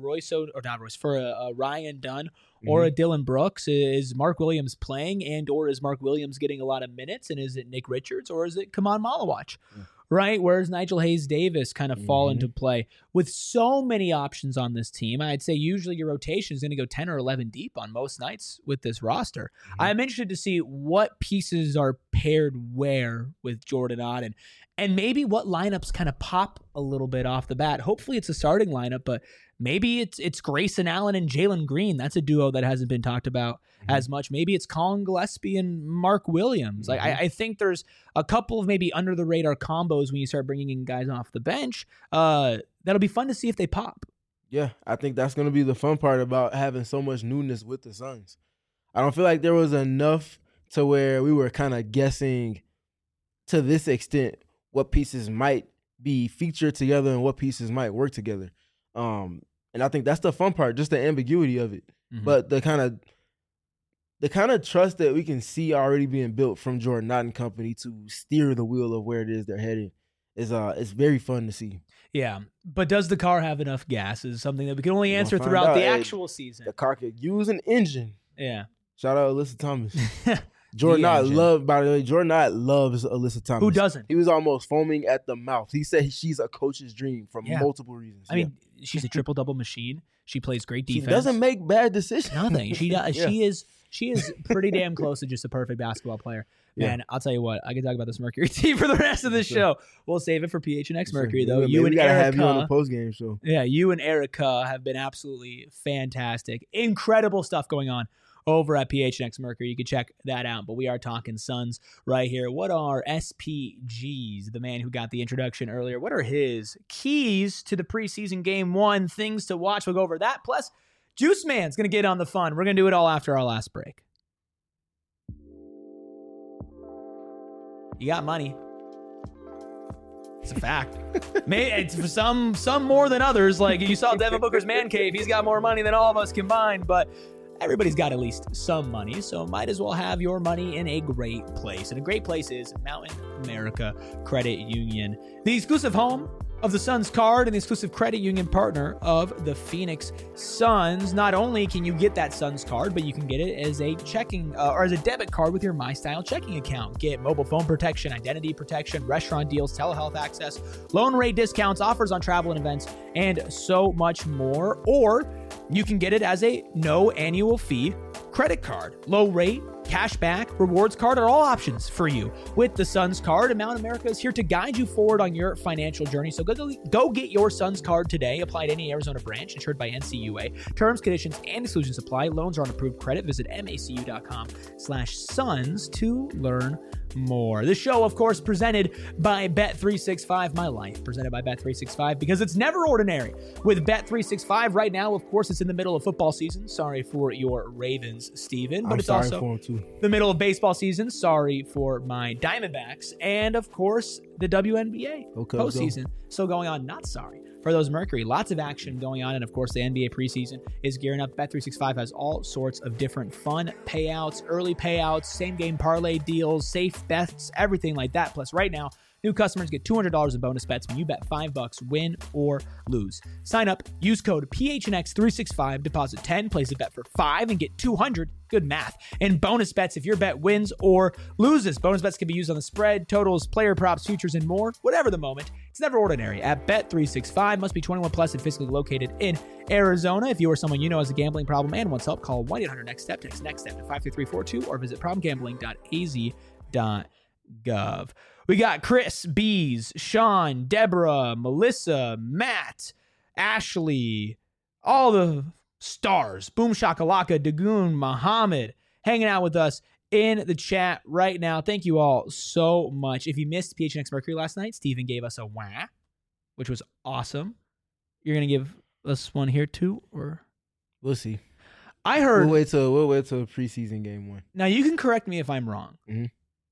Ryan Dunn or a Dylan Brooks? Is Mark Williams playing, and or is Mark Williams getting a lot of minutes? And is it Nick Richards or is it Kaman Malawach? Right? Where's Nigel Hayes-Davis kind of fall into play? With so many options on this team, I'd say usually your rotation is going to go 10 or 11 deep on most nights with this roster. I'm interested to see what pieces are paired where with Jordan Ott, and maybe what lineups kind of pop a little bit off the bat. Hopefully it's a starting lineup, but maybe it's Grayson Allen and Jalen Green. That's a duo that hasn't been talked about as much. Maybe it's Colin Gillespie and Mark Williams. Like I think there's a couple of maybe under the radar combos when you start bringing in guys off the bench. That'll be fun to see if they pop. Yeah, I think that's going to be the fun part about having so much newness with the Suns. I don't feel like there was enough to where we were kind of guessing to this extent what pieces might be featured together and what pieces might work together. And I think that's the fun part, just the ambiguity of it. But the kind of trust that we can see already being built from Jordan Ott and company to steer the wheel of where it is they're heading is very fun to see. Yeah, but does the car have enough gas is something that we can only answer throughout the actual season. The car could use an engine. Yeah. Shout out Alyssa Thomas. Jordan Ott loves Alyssa Thomas. Who doesn't? He was almost foaming at the mouth. He said she's a coach's dream for multiple reasons. I mean, she's a triple-double machine. She plays great defense. She doesn't make bad decisions. Nothing. She does. She is pretty damn close to just a perfect basketball player. Man, I'll tell you what. I could talk about this Mercury team for the rest of the show. We'll save it for PHNX Mercury, though. We gotta have you on the post-game show. Yeah, you and Erica have been absolutely fantastic. Incredible stuff going on over at PHNX Mercury. You can check that out. But we are talking Suns right here. What are SPG's, the man who got the introduction earlier, what are his keys to the preseason game one, things to watch? We'll go over that. Plus, Juice Man's going to get on the fun. We're going to do it all after our last break. You got money. It's a fact. It's for some more than others. Like you saw Devin Booker's man cave. He's got more money than all of us combined. But everybody's got at least some money, so might as well have your money in a great place. And a great place is Mountain America Credit Union, the exclusive home of the Suns card and the exclusive credit union partner of the Phoenix Suns. Not only can you get that Suns card, but you can get it as a checking or as a debit card with your MyStyle checking account. Get mobile phone protection, identity protection, restaurant deals, telehealth access, loan rate discounts, offers on travel and events, and so much more. Or you can get it as a no annual fee credit card. Low rate, cashback, rewards card are all options for you with the Suns card. And Mountain America is here to guide you forward on your financial journey. So go get your Suns card today. Apply at any Arizona branch insured by NCUA. Terms, conditions, and exclusions apply. Loans are on approved credit. Visit macu.com/Suns to learn more. This show, of course, presented by Bet365. My life presented by Bet365 because it's never ordinary with Bet365. Right now, of course, it's in the middle of football season. Sorry for your Ravens, Steven, but it's also the middle of baseball season. Sorry for my Diamondbacks. And, of course, the WNBA postseason still going on. Not sorry for those Mercury. Lots of action going on. And, of course, the NBA preseason is gearing up. Bet365 has all sorts of different fun payouts, early payouts, same-game parlay deals, safe bets, everything like that. Plus, right now, new customers get $200 in bonus bets when you bet $5, win or lose. Sign up, use code PHNX365, deposit 10, place a bet for $5, and get $200. Good math. And bonus bets if your bet wins or loses. Bonus bets can be used on the spread, totals, player props, futures, and more. Whatever the moment, it's never ordinary. At Bet365, must be 21 plus and physically located in Arizona. If you or someone you know has a gambling problem and wants help, call 1-800-NEXT-STEP. Text NEXT STEP to 53342 or visit problemgambling.az.gov. We got Chris, Bees, Sean, Deborah, Melissa, Matt, Ashley, all the stars, Boom Shakalaka, Dagoon, Muhammad, hanging out with us in the chat right now. Thank you all so much. If you missed PHNX Mercury last night, Steven gave us a wah, which was awesome. You're going to give us one here too, or? We'll see. I heard. We'll wait till preseason game one. Now, you can correct me if I'm wrong. Mm-hmm.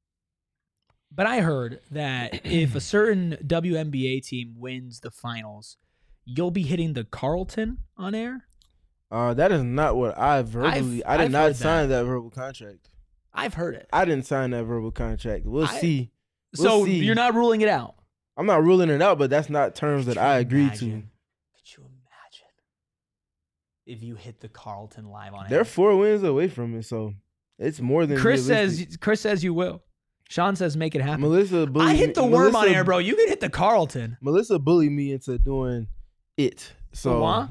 But I heard that if a certain WNBA team wins the finals, you'll be hitting the Carlton on air? That is not what I verbally. I did not sign that verbal contract. I've heard it. I didn't sign that verbal contract. We'll see. So see. You're not ruling it out? I'm not ruling it out, but that's not terms that I agreed to. Could you imagine if you hit the Carlton live on air? They're 4 wins away from it, so it's more than Chris realistic. says you will. Sean says make it happen. I hit the worm on air, bro. You can hit the Carlton. Melissa bullied me into doing it. So what?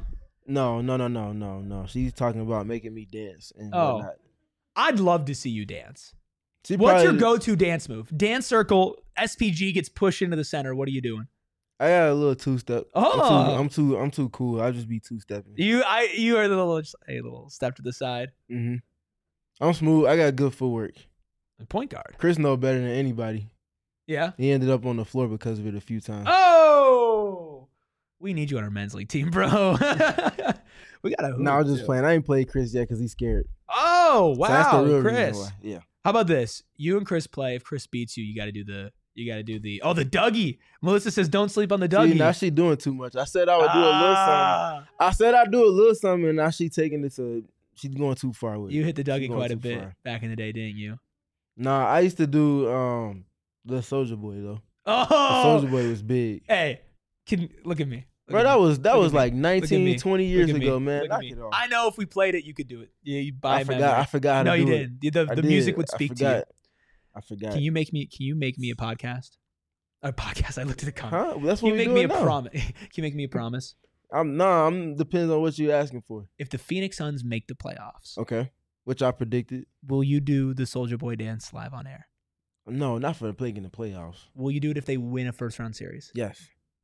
No. She's talking about making me dance and whatnot. I'd love to see you dance. What's your go-to dance move? Dance circle, SPG gets pushed into the center. What are you doing? I got a little two-step. Oh. I'm too cool. I'll just be two-stepping. You are the little step to the side. Mm-hmm. I'm smooth. I got good footwork. Point guard. Chris knows better than anybody. Yeah. He ended up on the floor because of it a few times. Oh, we need you on our men's league team, bro. We got to. No, I'm just playing. I ain't played Chris yet because he's scared. Oh, wow, so that's the real Chris. Reason why. Yeah. How about this? You and Chris play. If Chris beats you, you got to do the the Dougie. Melissa says don't sleep on the Dougie. See, now she doing too much. I said I would do a little something. I said I'd do a little something, and now she's taking it to. She's going too far with it. You hit the Dougie quite a bit back in the day, didn't you? Nah, I used to do the Soulja Boy though. Oh, the Soulja Boy was big. Hey, look at me. Bro, that was like 19, 20 years ago, man. Knock it off. I know if we played it, you could do it. Yeah, you buy. I forgot how to do it. No, you didn't. The music would speak to you. I forgot. Can you make me a podcast? A podcast. I looked at the comment. Huh? That's what Can you make me a promise? Can you make me a promise? I'm depends on what you're asking for. If the Phoenix Suns make the playoffs, okay, which I predicted, will you do the Soulja Boy dance live on air? No, not for playing in the playoffs. Will you do it if they win a first round series? Yes.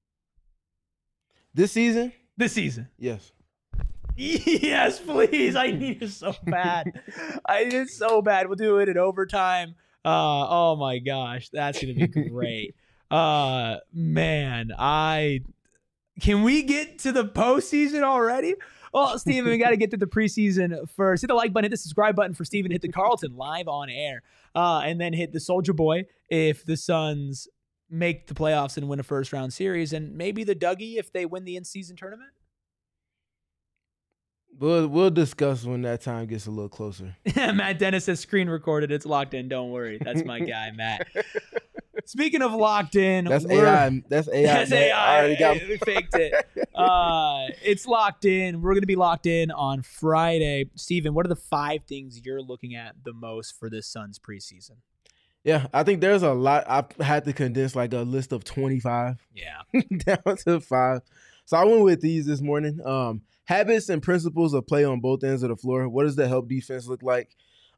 This season? Yes. Yes, please. I need it so bad. We'll do it in overtime. Oh my gosh, that's gonna be great. Man, can we get to the postseason already? Well, Steven, we got to get to the preseason first. Hit the like button, hit the subscribe button for Steven. Hit the Carlton live on air. And then hit the Soulja Boy if the Suns make the playoffs and win a first-round series. And maybe the Dougie if they win the in-season tournament? We'll discuss when that time gets a little closer. Matt Dennis says screen recorded. It's locked in. Don't worry. That's my guy, Matt. Speaking of locked in, That's AI. That's AI. That's man. AI. I already got. We faked it. It's locked in. We're going to be locked in on Friday. Steven, what are the 5 things you're looking at the most for this Suns preseason? Yeah, I think there's a lot. I had to condense like a list of 25 Yeah. down to 5. So I went with these this morning. Habits and principles of play on both ends of the floor. What does the help defense look like?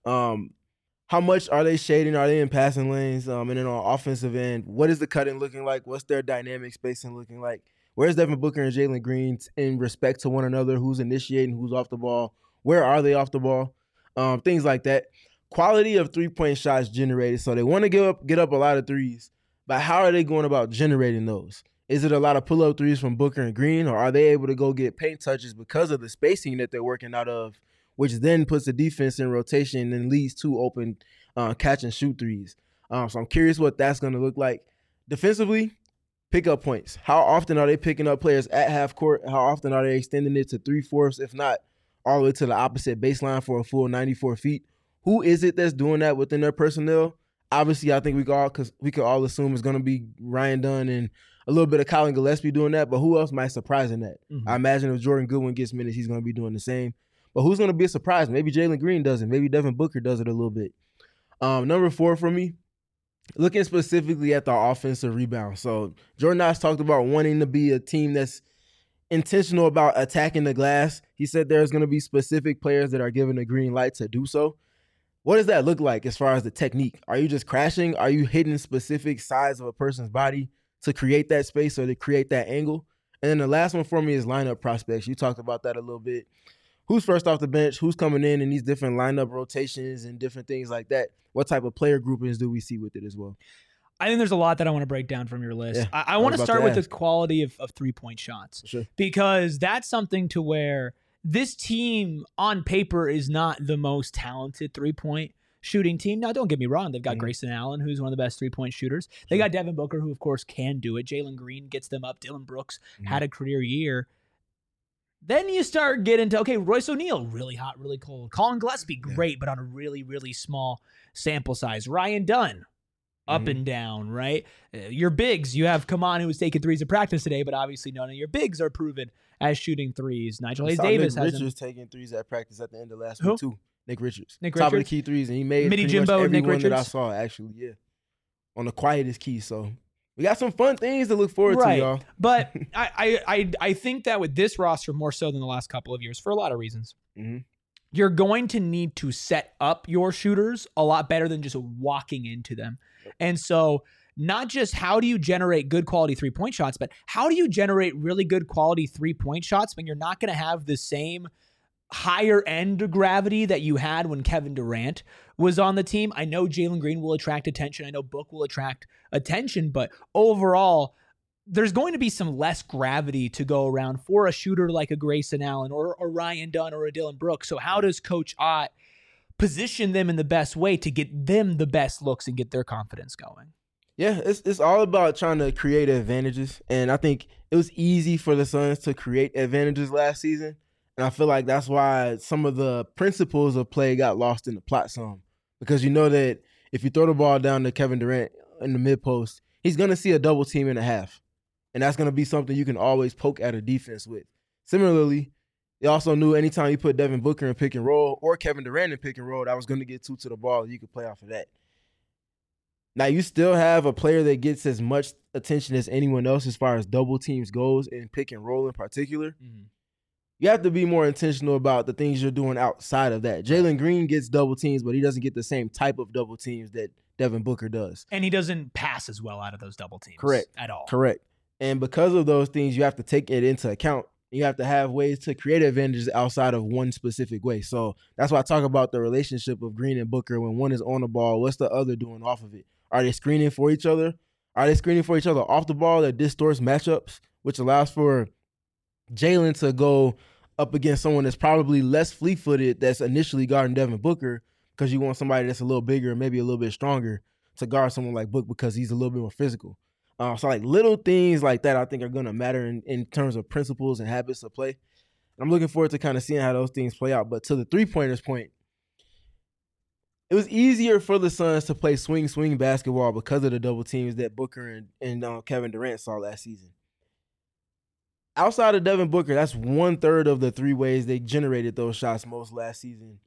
How much are they shading? Are they in passing lanes? And then on offensive end, what is the cutting looking like? What's their dynamic spacing looking like? Where's Devin Booker and Jalen Green in respect to one another? Who's initiating? Who's off the ball? Where are they off the ball? Things like that. Quality of three-point shots generated. So they want to get up a lot of threes, but how are they going about generating those? Is it a lot of pull-up threes from Booker and Green, or are they able to go get paint touches because of the spacing that they're working out of, which then puts the defense in rotation and leads to open catch and shoot threes? So I'm curious what that's going to look like. Defensively, pick up points. How often are they picking up players at half court? How often are they extending it to 3/4, if not all the way to the opposite baseline for a full 94 feet? Who is it that's doing that within their personnel? Obviously, I think we could all assume it's going to be Ryan Dunn and a little bit of Colin Gillespie doing that, but who else might surprise in that? Mm-hmm. I imagine if Jordan Goodwin gets minutes, he's going to be doing the same. But who's going to be a surprise? Maybe Jalen Green does it. Maybe Devin Booker does it a little bit. Number 4 for me, looking specifically at the offensive rebound. So Jordan Knox talked about wanting to be a team that's intentional about attacking the glass. He said there's going to be specific players that are given a green light to do so. What does that look like as far as the technique? Are you just crashing? Are you hitting specific sides of a person's body to create that space or to create that angle? And then the last one for me is lineup prospects. You talked about that a little bit. Who's first off the bench? Who's coming in these different lineup rotations and different things like that? What type of player groupings do we see with it as well? I think there's a lot that I want to break down from your list. Yeah, I want to start with the ask. quality of 3-point shots. Sure. Because that's something to where this team on paper is not the most talented 3-point shooting team. Now, don't get me wrong. They've got Grayson Allen, who's one of the best 3-point shooters. They got Devin Booker, who, of course, can do it. Jalen Green gets them up. Dylan Brooks had a career year. Then you start getting to, okay, Royce O'Neal, really hot, really cold. Colin Gillespie, great, but on a really, really small sample size. Ryan Dunn, up and down, right? Your bigs, you have Kaman, who was taking threes in practice today, but obviously none of your bigs are proven as shooting threes. Nigel Hayes Davis Nick has Richards taking threes at practice at the end of last Who? week too. Nick Richards. Nick Top of the Richards? key threes, and he made Midi pretty much Jimbo, every Nick one that I Richards? saw, actually, yeah. On the quietest key, so we got some fun things to look forward to, y'all. But I think that with this roster, more so than the last couple of years, for a lot of reasons, you're going to need to set up your shooters a lot better than just walking into them. And so not just how do you generate good quality 3-point shots, but how do you generate really good quality 3-point shots when you're not going to have the same higher end gravity that you had when Kevin Durant was on the team. I know Jalen Green will attract attention. I know Book will attract attention, but overall, there's going to be some less gravity to go around for a shooter like a Grayson Allen or Ryan Dunn or a Dylan Brooks. So how does Coach Ott position them in the best way to get them the best looks and get their confidence going? Yeah, it's all about trying to create advantages. And I think it was easy for the Suns to create advantages last season. And I feel like that's why some of the principles of play got lost in the plot some. Because you know that if you throw the ball down to Kevin Durant in the mid-post, he's going to see a double team and a half. And that's going to be something you can always poke at a defense with. Similarly, they also knew anytime you put Devin Booker in pick and roll or Kevin Durant in pick and roll, that was going to get 2 to the ball. You could play off of that. Now, you still have a player that gets as much attention as anyone else as far as double teams goes in pick and roll in particular. You have to be more intentional about the things you're doing outside of that. Jalen Green gets double teams, but he doesn't get the same type of double teams that Devin Booker does. And he doesn't pass as well out of those double teams. Correct. At all. Correct. And because of those things, you have to take it into account. You have to have ways to create advantages outside of one specific way. So that's why I talk about the relationship of Green and Booker. When one is on the ball, what's the other doing off of it? Are they screening for each other? Are they screening for each other off the ball that distorts matchups, which allows for Jalen to go up against someone that's probably less fleet-footed that's initially guarding Devin Booker because you want somebody that's a little bigger and maybe a little bit stronger to guard someone like Book because he's a little bit more physical. So like little things like that I think are going to matter in terms of principles and habits of play. I'm looking forward to kind of seeing how those things play out. But to the three-pointers point, it was easier for the Suns to play swing basketball because of the double teams that Booker and Kevin Durant saw last season. Outside of Devin Booker, that's 1/3 of the 3 ways they generated those shots most last season.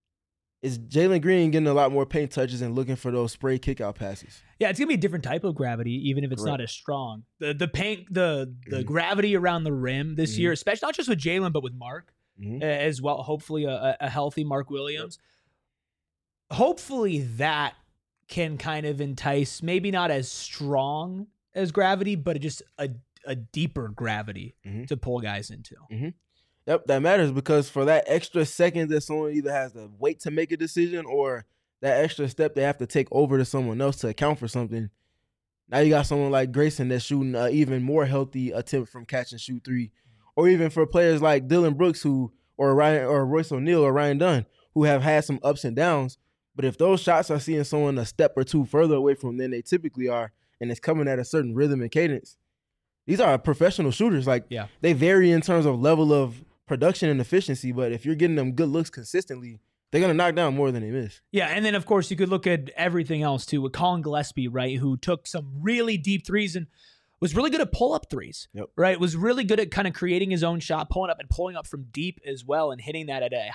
Is Jalen Green getting a lot more paint touches and looking for those spray kickout passes? Yeah, it's gonna be a different type of gravity, even if it's not as strong. The paint, the gravity around the rim this year, especially not just with Jalen, but with Mark as well. Hopefully, a healthy Mark Williams. Hopefully, that can kind of entice, maybe not as strong as gravity, but just a deeper gravity to pull guys into. Yep, that matters because for that extra second that someone either has to wait to make a decision or that extra step they have to take over to someone else to account for something, now you got someone like Grayson that's shooting an even more healthy attempt from catch and shoot 3. Or even for players like Dylan Brooks or Royce O'Neal or Ryan Dunn who have had some ups and downs. But if those shots are seeing someone a step or 2 further away from than they typically are and it's coming at a certain rhythm and cadence, these are professional shooters. They vary in terms of level of production and efficiency, but if you're getting them good looks consistently, they're going to knock down more than they miss. Yeah, and then, of course, you could look at everything else, too, with Colin Gillespie, right, who took some really deep threes and was really good at pull-up threes, right? Was really good at kind of creating his own shot, pulling up from deep as well and hitting that at a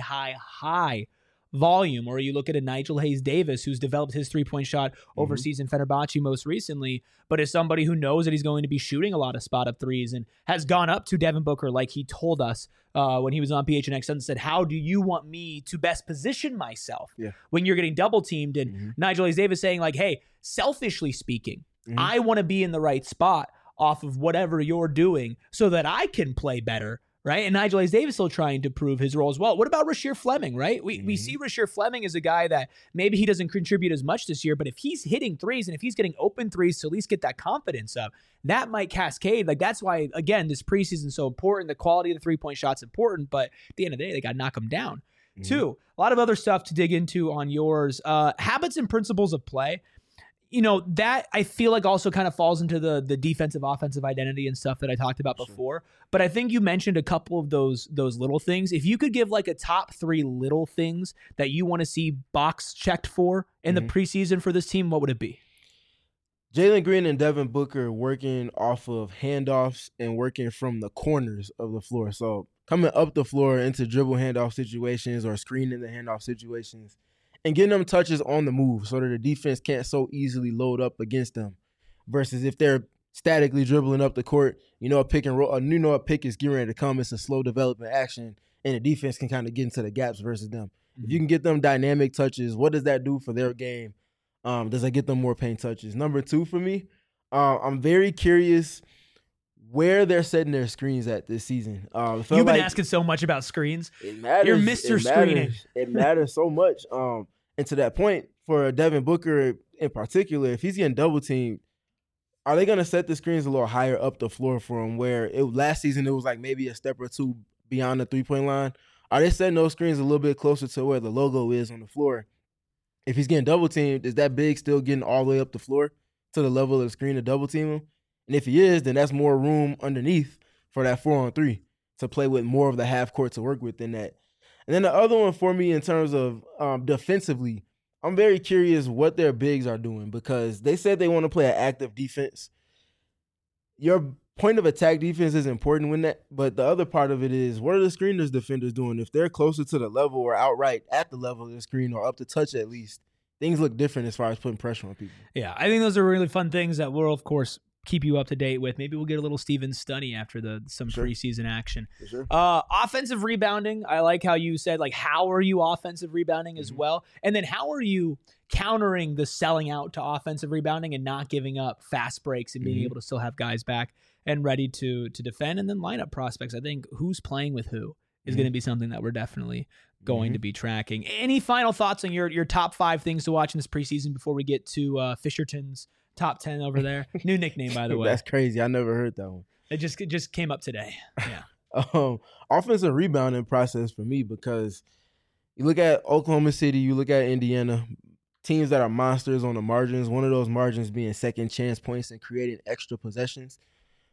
high volume. Or you look at a Nigel Hayes-Davis who's developed his three-point shot overseas in Fenerbahce most recently, but is somebody who knows that he's going to be shooting a lot of spot-up threes and has gone up to Devin Booker like he told us when he was on PHNX and said, how do you want me to best position myself when you're getting double-teamed? And Nigel Hayes-Davis saying, like, hey, selfishly speaking, I want to be in the right spot off of whatever you're doing so that I can play better. Right. And Nigel Hayes-Davis still trying to prove his role as well. What about Rasheer Fleming? Right. We see Rasheer Fleming as a guy that maybe he doesn't contribute as much this year, but if he's hitting threes and if he's getting open threes to at least get that confidence up, that might cascade. Like, that's why, again, this preseason is so important. The quality of the 3-point shot's important, but at the end of the day, they got to knock them down. 2, a lot of other stuff to dig into on yours. Habits and principles of play. You know, that I feel like also kind of falls into the defensive offensive identity and stuff that I talked about before. But I think you mentioned a couple of those little things. If you could give like a top 3 little things that you want to see box checked for in the preseason for this team, what would it be? Jalen Green and Devin Booker working off of handoffs and working from the corners of the floor. So coming up the floor into dribble handoff situations or screening the handoff situations, and getting them touches on the move so that the defense can't so easily load up against them. Versus if they're statically dribbling up the court, a pick and roll, a pick is getting ready to come. It's a slow development action, and the defense can kind of get into the gaps versus them. If you can get them dynamic touches, what does that do for their game? Does that get them more paint touches? Number 2 for me, I'm very curious where they're setting their screens at this season. You've been asking so much about screens. It matters. You're Mr. Screening. It matters so much. And to that point, for Devin Booker in particular, if he's getting double teamed, are they going to set the screens a little higher up the floor for him where last season it was like maybe a step or 2 beyond the 3-point line? Are they setting those screens a little bit closer to where the logo is on the floor? If he's getting double teamed, is that big still getting all the way up the floor to the level of the screen to double team him? And if he is, then that's more room underneath for that 4-on-3 to play with more of the half court to work with than that. And then the other one for me in terms of defensively, I'm very curious what their bigs are doing because they said they want to play an active defense. Your point of attack defense is important when that, but the other part of it is what are the screeners defenders doing? If they're closer to the level or outright at the level of the screen or up to touch at least, things look different as far as putting pressure on people. Yeah, I think those are really fun things that we'll, of course, keep you up to date with. Maybe we'll get a little Steven Stunny after some preseason action. Offensive rebounding. I like how you said, like, how are you offensive rebounding as well? And then how are you countering the selling out to offensive rebounding and not giving up fast breaks and being able to still have guys back and ready to defend? And then lineup prospects. I think who's playing with who is going to be something that we're definitely going to be tracking. Any final thoughts on your top 5 things to watch in this preseason before we get to Fisherton's top 10 over there? New nickname, by the way. That's crazy. I never heard that one. It just came up today. Yeah. Offensive rebounding process for me, because you look at Oklahoma City, you look at Indiana, teams that are monsters on the margins, one of those margins being second chance points and creating extra possessions.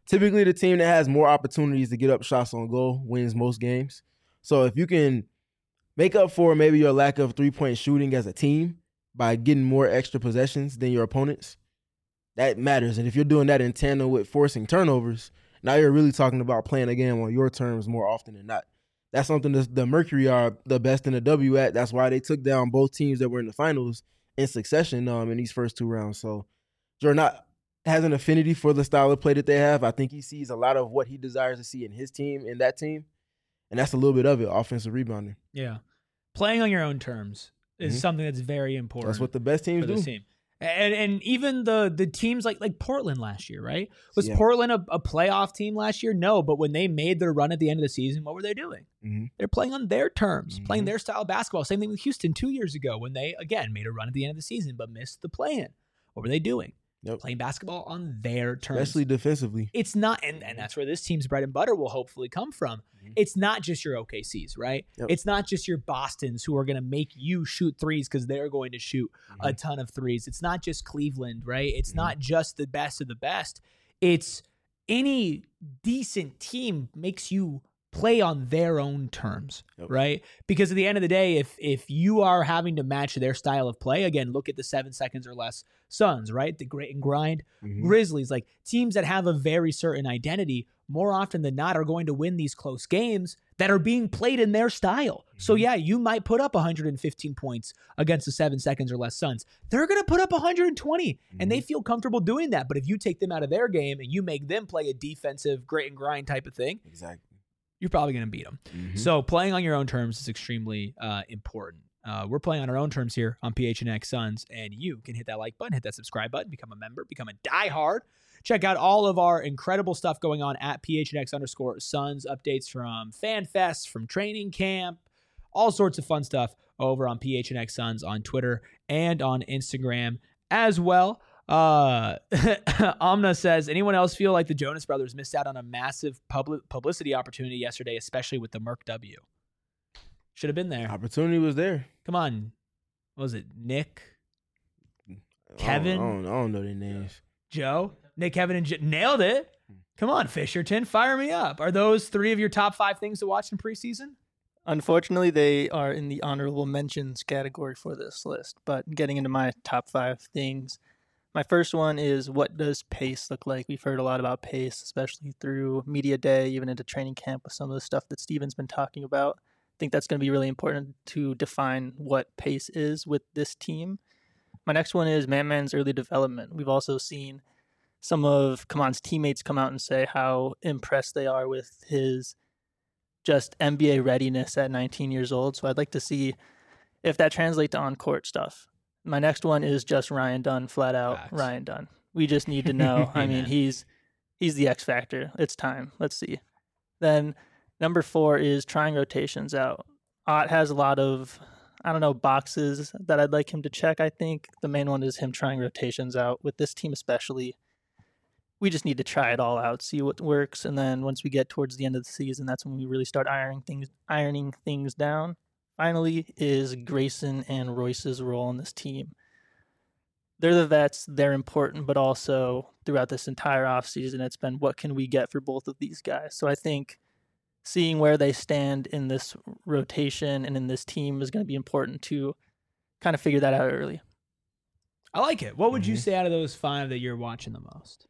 typically the team that has more opportunities to get up shots on goal wins most games. So if you can make up for maybe your lack of three-point shooting as a team by getting more extra possessions than your opponents, that matters. And if you're doing that in tandem with forcing turnovers, now you're really talking about playing a game on your terms more often than not. That's something that the Mercury are the best in the W at. That's why they took down both teams that were in the finals in succession in these first 2 rounds. So Jordan has an affinity for the style of play that they have. I think he sees a lot of what he desires to see in his team, in that team. And that's a little bit of it, offensive rebounding. Yeah. Playing on your own terms is something that's very important. That's what the best teams do. Team. And even the teams like Portland last year, right? Was Portland a playoff team last year? No, but when they made their run at the end of the season, what were they doing? They're playing on their terms, playing their style of basketball. Same thing with Houston 2 years ago when they, again, made a run at the end of the season but missed the play-in. What were they doing? Playing basketball on their terms. Especially defensively. It's not, and that's where this team's bread and butter will hopefully come from. It's not just your OKCs, right? It's not just your Bostons who are going to make you shoot threes because they're going to shoot a ton of threes. It's not just Cleveland, right? It's not just the best of the best. It's any decent team makes you play on their own terms, right? Because at the end of the day, if you are having to match their style of play, again, look at the 7 seconds or less Suns, right? The grit and grind Grizzlies, like teams that have a very certain identity, more often than not are going to win these close games that are being played in their style. So yeah, you might put up 115 points against the 7 seconds or less Suns. They're going to put up 120 and they feel comfortable doing that. But if you take them out of their game and you make them play a defensive grit and grind type of thing, you're probably going to beat them. So playing on your own terms is extremely important. We're playing on our own terms here on PHNX Suns, and you can hit that like button, hit that subscribe button, become a member, become a diehard. Check out all of our incredible stuff going on at PHNX_Suns, updates from Fan Fest, from training camp, all sorts of fun stuff over on PHNX Suns on Twitter and on Instagram as well. Amna says, anyone else feel like the Jonas Brothers missed out on a massive publicity opportunity yesterday, especially with the Merc W? Should have been there. Opportunity was there. Come on. What was it? Nick? Kevin? I don't know their names. Joe? Nick, Kevin, and nailed it. Come on, Fisherton. Fire me up. Are those 3 of your top 5 things to watch in preseason? Unfortunately, they are in the honorable mentions category for this list. But getting into my top 5 things, my first one is, what does pace look like? We've heard a lot about pace, especially through media day, even into training camp with some of the stuff that Steven's been talking about. I think that's going to be really important to define what pace is with this team. My next one is Man-Man's early development. We've also seen some of Kaman's teammates come out and say how impressed they are with his just NBA readiness at 19 years old. So I'd like to see if that translates to on-court stuff. My next one is just Ryan Dunn, flat out. Facts. Ryan Dunn. We just need to know. I mean, he's the X factor. It's time. Let's see. Then number 4 is trying rotations out. Ott has a lot of, boxes that I'd like him to check. I think the main one is him trying rotations out. With this team especially, we just need to try it all out, see what works, and then once we get towards the end of the season, that's when we really start ironing things down. Finally is Grayson and Royce's role in this team. They're the vets, they're important, but also throughout this entire offseason, it's been what can we get for both of these guys. So I think seeing where they stand in this rotation and in this team is going to be important to kind of figure that out early. I like it. What would you say out of those 5 that you're watching the most?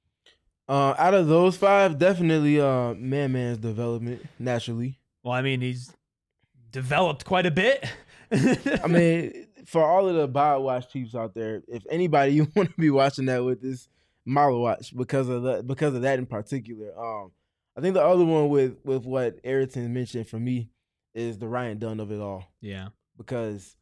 Out of those 5, definitely Man-Man's development, naturally. Well, I mean, he's developed quite a bit. I mean, for all of the Bod Watch peeps out there, if anybody you want to be watching that with is Malo Watch because of that in particular. I think the other one with what Ayrton mentioned for me is the Ryan Dunn of it all. Yeah. Because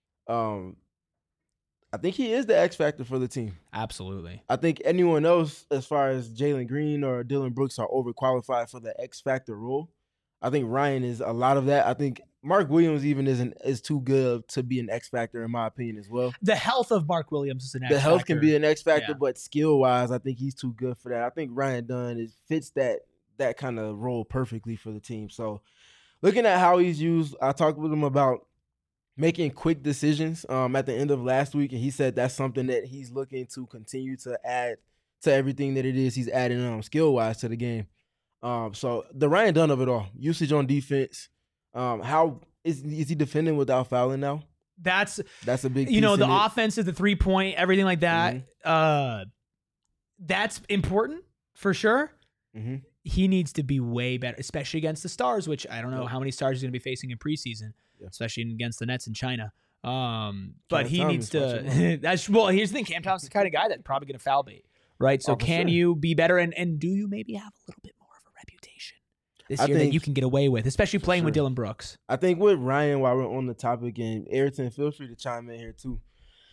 I think he is the X factor for the team. Absolutely. I think anyone else, as far as Jalen Green or Dylan Brooks, are overqualified for the X factor role. I think Ryan is a lot of that. I think Mark Williams even is too good to be an X factor in my opinion as well. The health of Mark Williams is an X factor. The health can be an X factor, but skill wise, I think he's too good for that. I think Ryan Dunn fits that kind of role perfectly for the team. So looking at how he's used, I talked with him about making quick decisions at the end of last week, and he said that's something that he's looking to continue to add to everything that it is he's adding skill wise to the game. So the Ryan Dunn of it all, usage on defense. How is he defending without fouling now? That's a big you know, piece the in it. offense is the 3-point, everything like that. That's important for sure. Mm-hmm. He needs to be way better, especially against the Stars, which I don't know how many Stars he's going to be facing in preseason, especially against the Nets in China. But he needs to. Here's the thing: Cam Thomas's the kind of guy that's probably going to foul bait, right? So can you be better, and do you maybe have a little bit more of a reputation this year that you can get away with, especially playing with Dylan Brooks? I think with Ryan, while we're on the topic, and Ayrton, feel free to chime in here too.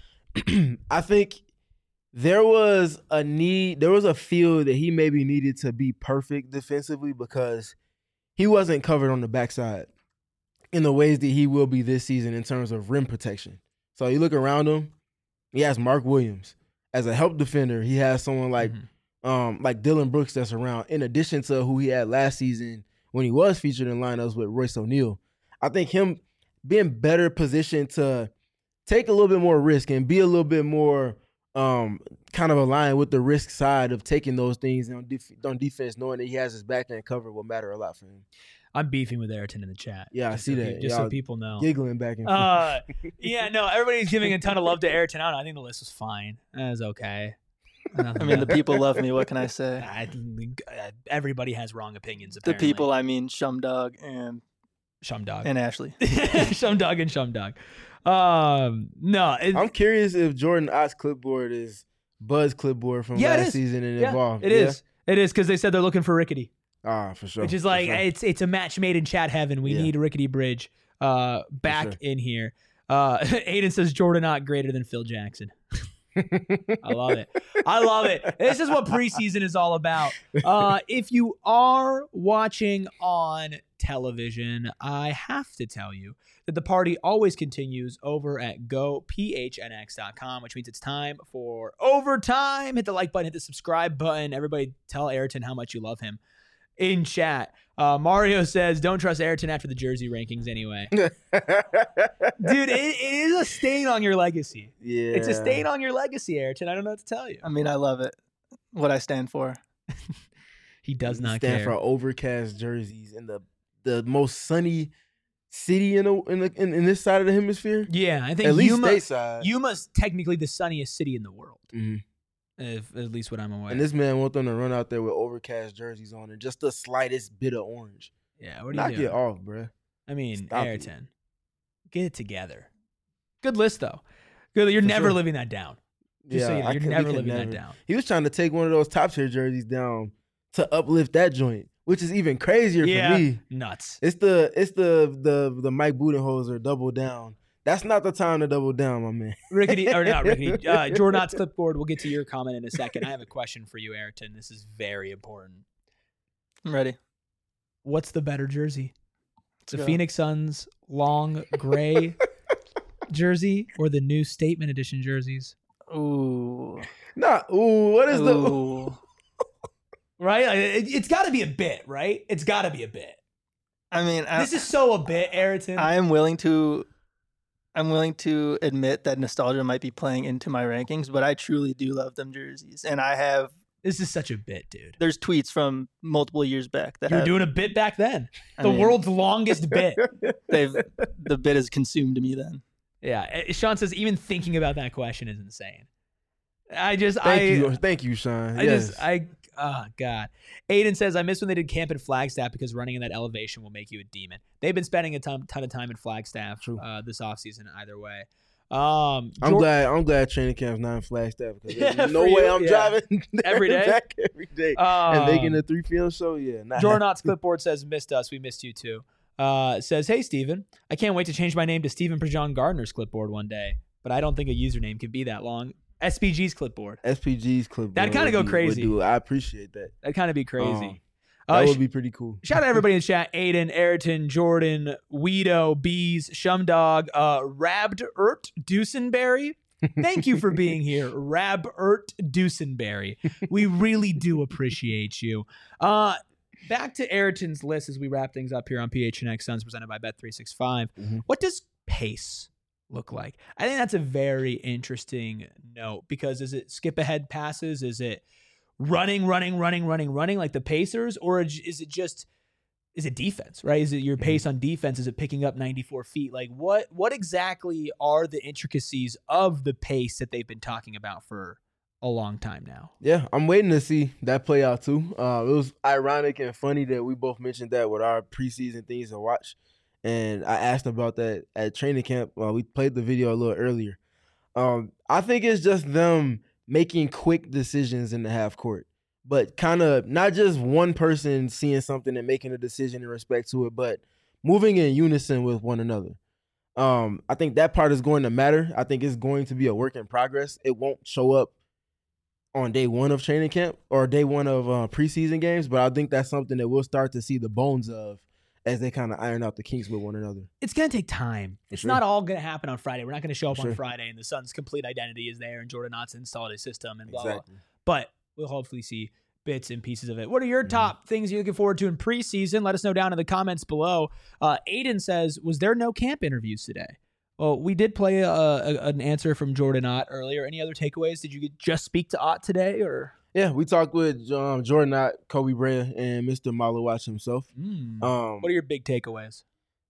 I think there was a feel that he maybe needed to be perfect defensively because he wasn't covered on the backside in the ways that he will be this season in terms of rim protection. So you look around him, he has Mark Williams. As a help defender, he has someone like Dylan Brooks that's around, in addition to who he had last season when he was featured in lineups with Royce O'Neal. I think him being better positioned to take a little bit more risk and be a little bit more kind of aligned with the risk side of taking those things on defense, knowing that he has his back end covered will matter a lot for him. I'm beefing with Ayrton in the chat. Yeah, I see that. Just so people know. Giggling back and forth. Yeah, no, everybody's giving a ton of love to Ayrton. I think the list was fine. It was okay. I mean, the people love me. What can I say? Everybody has wrong opinions, The apparently. people, I mean, Shumdog and Ashley. Shumdog and Shumdog. No. I'm curious if Jordan Ott's clipboard is Bud's clipboard from last season and Evolve. It is. It is, because they said they're looking for Rickety. Ah, for sure. Which is like, it's a match made in chat heaven. We need Rickety Bridge back in here. Aiden says Jordan Ott greater than Phil Jackson. I love it. I love it. This is what preseason is all about. If you are watching on television, I have to tell you that the party always continues over at gophnx.com, which means it's time for overtime. Hit the like button, hit the subscribe button. Everybody tell Ayrton how much you love him in chat. Mario says, don't trust Ayrton after the jersey rankings anyway. Dude, it is a stain on your legacy. Yeah. It's a stain on your legacy, Ayrton. I don't know what to tell you. I mean, I love it. What I stand for. He does not stand care. for overcast jerseys in the most sunny city in this side of the hemisphere. Yeah, I think at least stateside. Yuma's technically the sunniest city in the world. Mm-hmm. At least what I'm aware. And this man want them to run out there with overcast jerseys on and just the slightest bit of orange. Yeah, what do Knock you doing? it off, bro. I mean, Stop Ayrton, get it together. Good list though. Good. You're never living that down. Just so you know, you're never living that down. He was trying to take one of those top tier jerseys down to uplift that joint, which is even crazier for me. Nuts. It's the Mike Budenholzer double down. That's not the time to double down, my man. Jordan Ott's clipboard. We'll get to your comment in a second. I have a question for you, Ayrton. This is very important. I'm ready. What's the better jersey? The Phoenix Suns long gray jersey or the new Statement Edition jerseys? Ooh. What is the... Right? It's got to be a bit, right? It's got to be a bit. I mean... this is so a bit, Ayrton. I'm willing to admit that nostalgia might be playing into my rankings, but I truly do love them jerseys. And I have... This is such a bit, dude. There's tweets from multiple years back that you were doing a bit back then. I mean, world's longest bit. The bit has consumed me then. Yeah. Sean says even thinking about that question is insane. Thank you, Sean. Oh, God. Aiden says, I miss when they did camp in Flagstaff because running in that elevation will make you a demon. They've been spending a ton of time in Flagstaff this offseason either way. I'm glad training camp's not in Flagstaff because there's no way I'm driving every day. Back every day and making a 3 p.m. show. Yeah, Jordan Ott's clipboard says, missed us. We missed you too. Says, hey, Steven, I can't wait to change my name to Stephen Prejean Gardner's clipboard one day, but I don't think a username can be that long. SPG's clipboard. That'd kind of go crazy. I appreciate that. That'd kind of be crazy. That would be pretty cool. Shout out everybody in the chat. Aiden, Ayrton, Jordan, Weedo, Bees, Shumdog, Rabd-ert Dusenberry. Thank you for being here, Rabd-ert Dusenberry. We really do appreciate you. Back to Ayrton's list as we wrap things up here on PHNX Suns presented by Bet365. Mm-hmm. What does pace look like? I think that's a very interesting note because is it skip ahead passes? Is it running like the Pacers, or is it defense, right? Is it your pace on defense? Is it picking up 94 feet? Like what exactly are the intricacies of the pace that they've been talking about for a long time now? Yeah, I'm waiting to see that play out too. It was ironic and funny that we both mentioned that with our preseason things to watch. And I asked about that at training camp. We played the video a little earlier. I think it's just them making quick decisions in the half court, but kind of not just one person seeing something and making a decision in respect to it, but moving in unison with one another. I think that part is going to matter. I think it's going to be a work in progress. It won't show up on day one of training camp or day one of preseason games, but I think that's something that we'll start to see the bones of as they kind of iron out the kinks with one another. It's going to take time. It's not all going to happen on Friday. We're not going to show up on Friday and the Suns' complete identity is there and Jordan Knott's installed his system and blah, blah. But we'll hopefully see bits and pieces of it. What are your top things you're looking forward to in preseason? Let us know down in the comments below. Aiden says, was there no camp interviews today? Well, we did play an answer from Jordan Ott earlier. Any other takeaways? Did you just speak to Ott today, or? Yeah, we talked with Jordan Ott, Kobe Bryant, and Mr. Malawach himself. What are your big takeaways?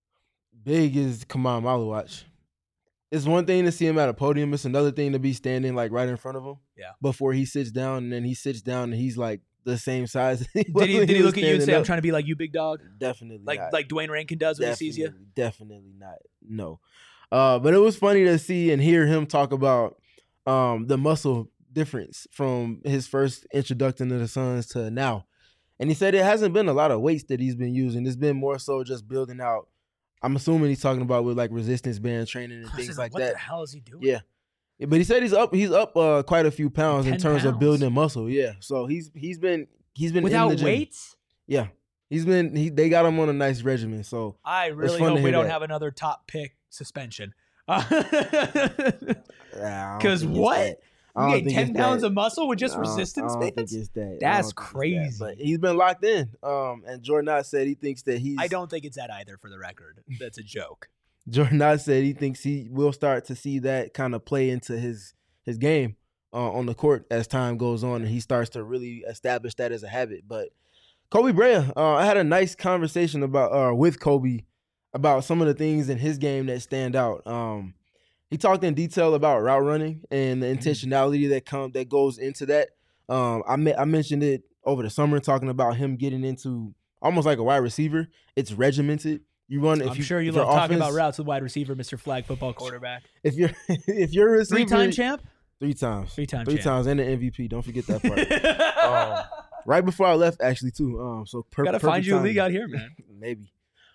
Big is Kamon Malawach. It's one thing to see him at a podium. It's another thing to be standing like right in front of him. Yeah. Before he sits down, and then he sits down and he's like the same size. Did he look at you and say, "I'm trying to be like you, big dog"? Definitely not. Like Dwayne Rankin does when he sees you. Definitely not. No. But it was funny to see and hear him talk about the muscle difference from his first introduction to the Suns to now. And he said it hasn't been a lot of weights that he's been using. It's been more so just building out. I'm assuming he's talking about with like resistance band training and things like that. What the hell is he doing? Yeah. But he said he's up quite a few pounds in terms of building muscle. Yeah. So he's been without in the gym. weights? Yeah. They got him on a nice regimen. So I really hope we don't have another top pick suspension. Because what? You get 10 pounds of muscle with just resistance bands? I don't think it's that. That's crazy. But he's been locked in. And Jordan Ott said he thinks that I don't think it's that either, for the record. That's a joke. Jordan Ott said he thinks he will start to see that kind of play into his game on the court as time goes on, and he starts to really establish that as a habit. But Kobe Bryant, I had a nice conversation with Kobe about some of the things in his game that stand out. He talked in detail about route running and the intentionality that goes into that. I mentioned it over the summer, talking about him getting into almost like a wide receiver. It's regimented. You run. I'm sure you love talking about routes with wide receiver, Mr. Flag football quarterback. If you're a receiver, 3-time champ, 3 times, 3-time, 3 times, and an MVP. Don't forget that part. Right before I left, actually, too. So gotta find you a league out here, man. Maybe.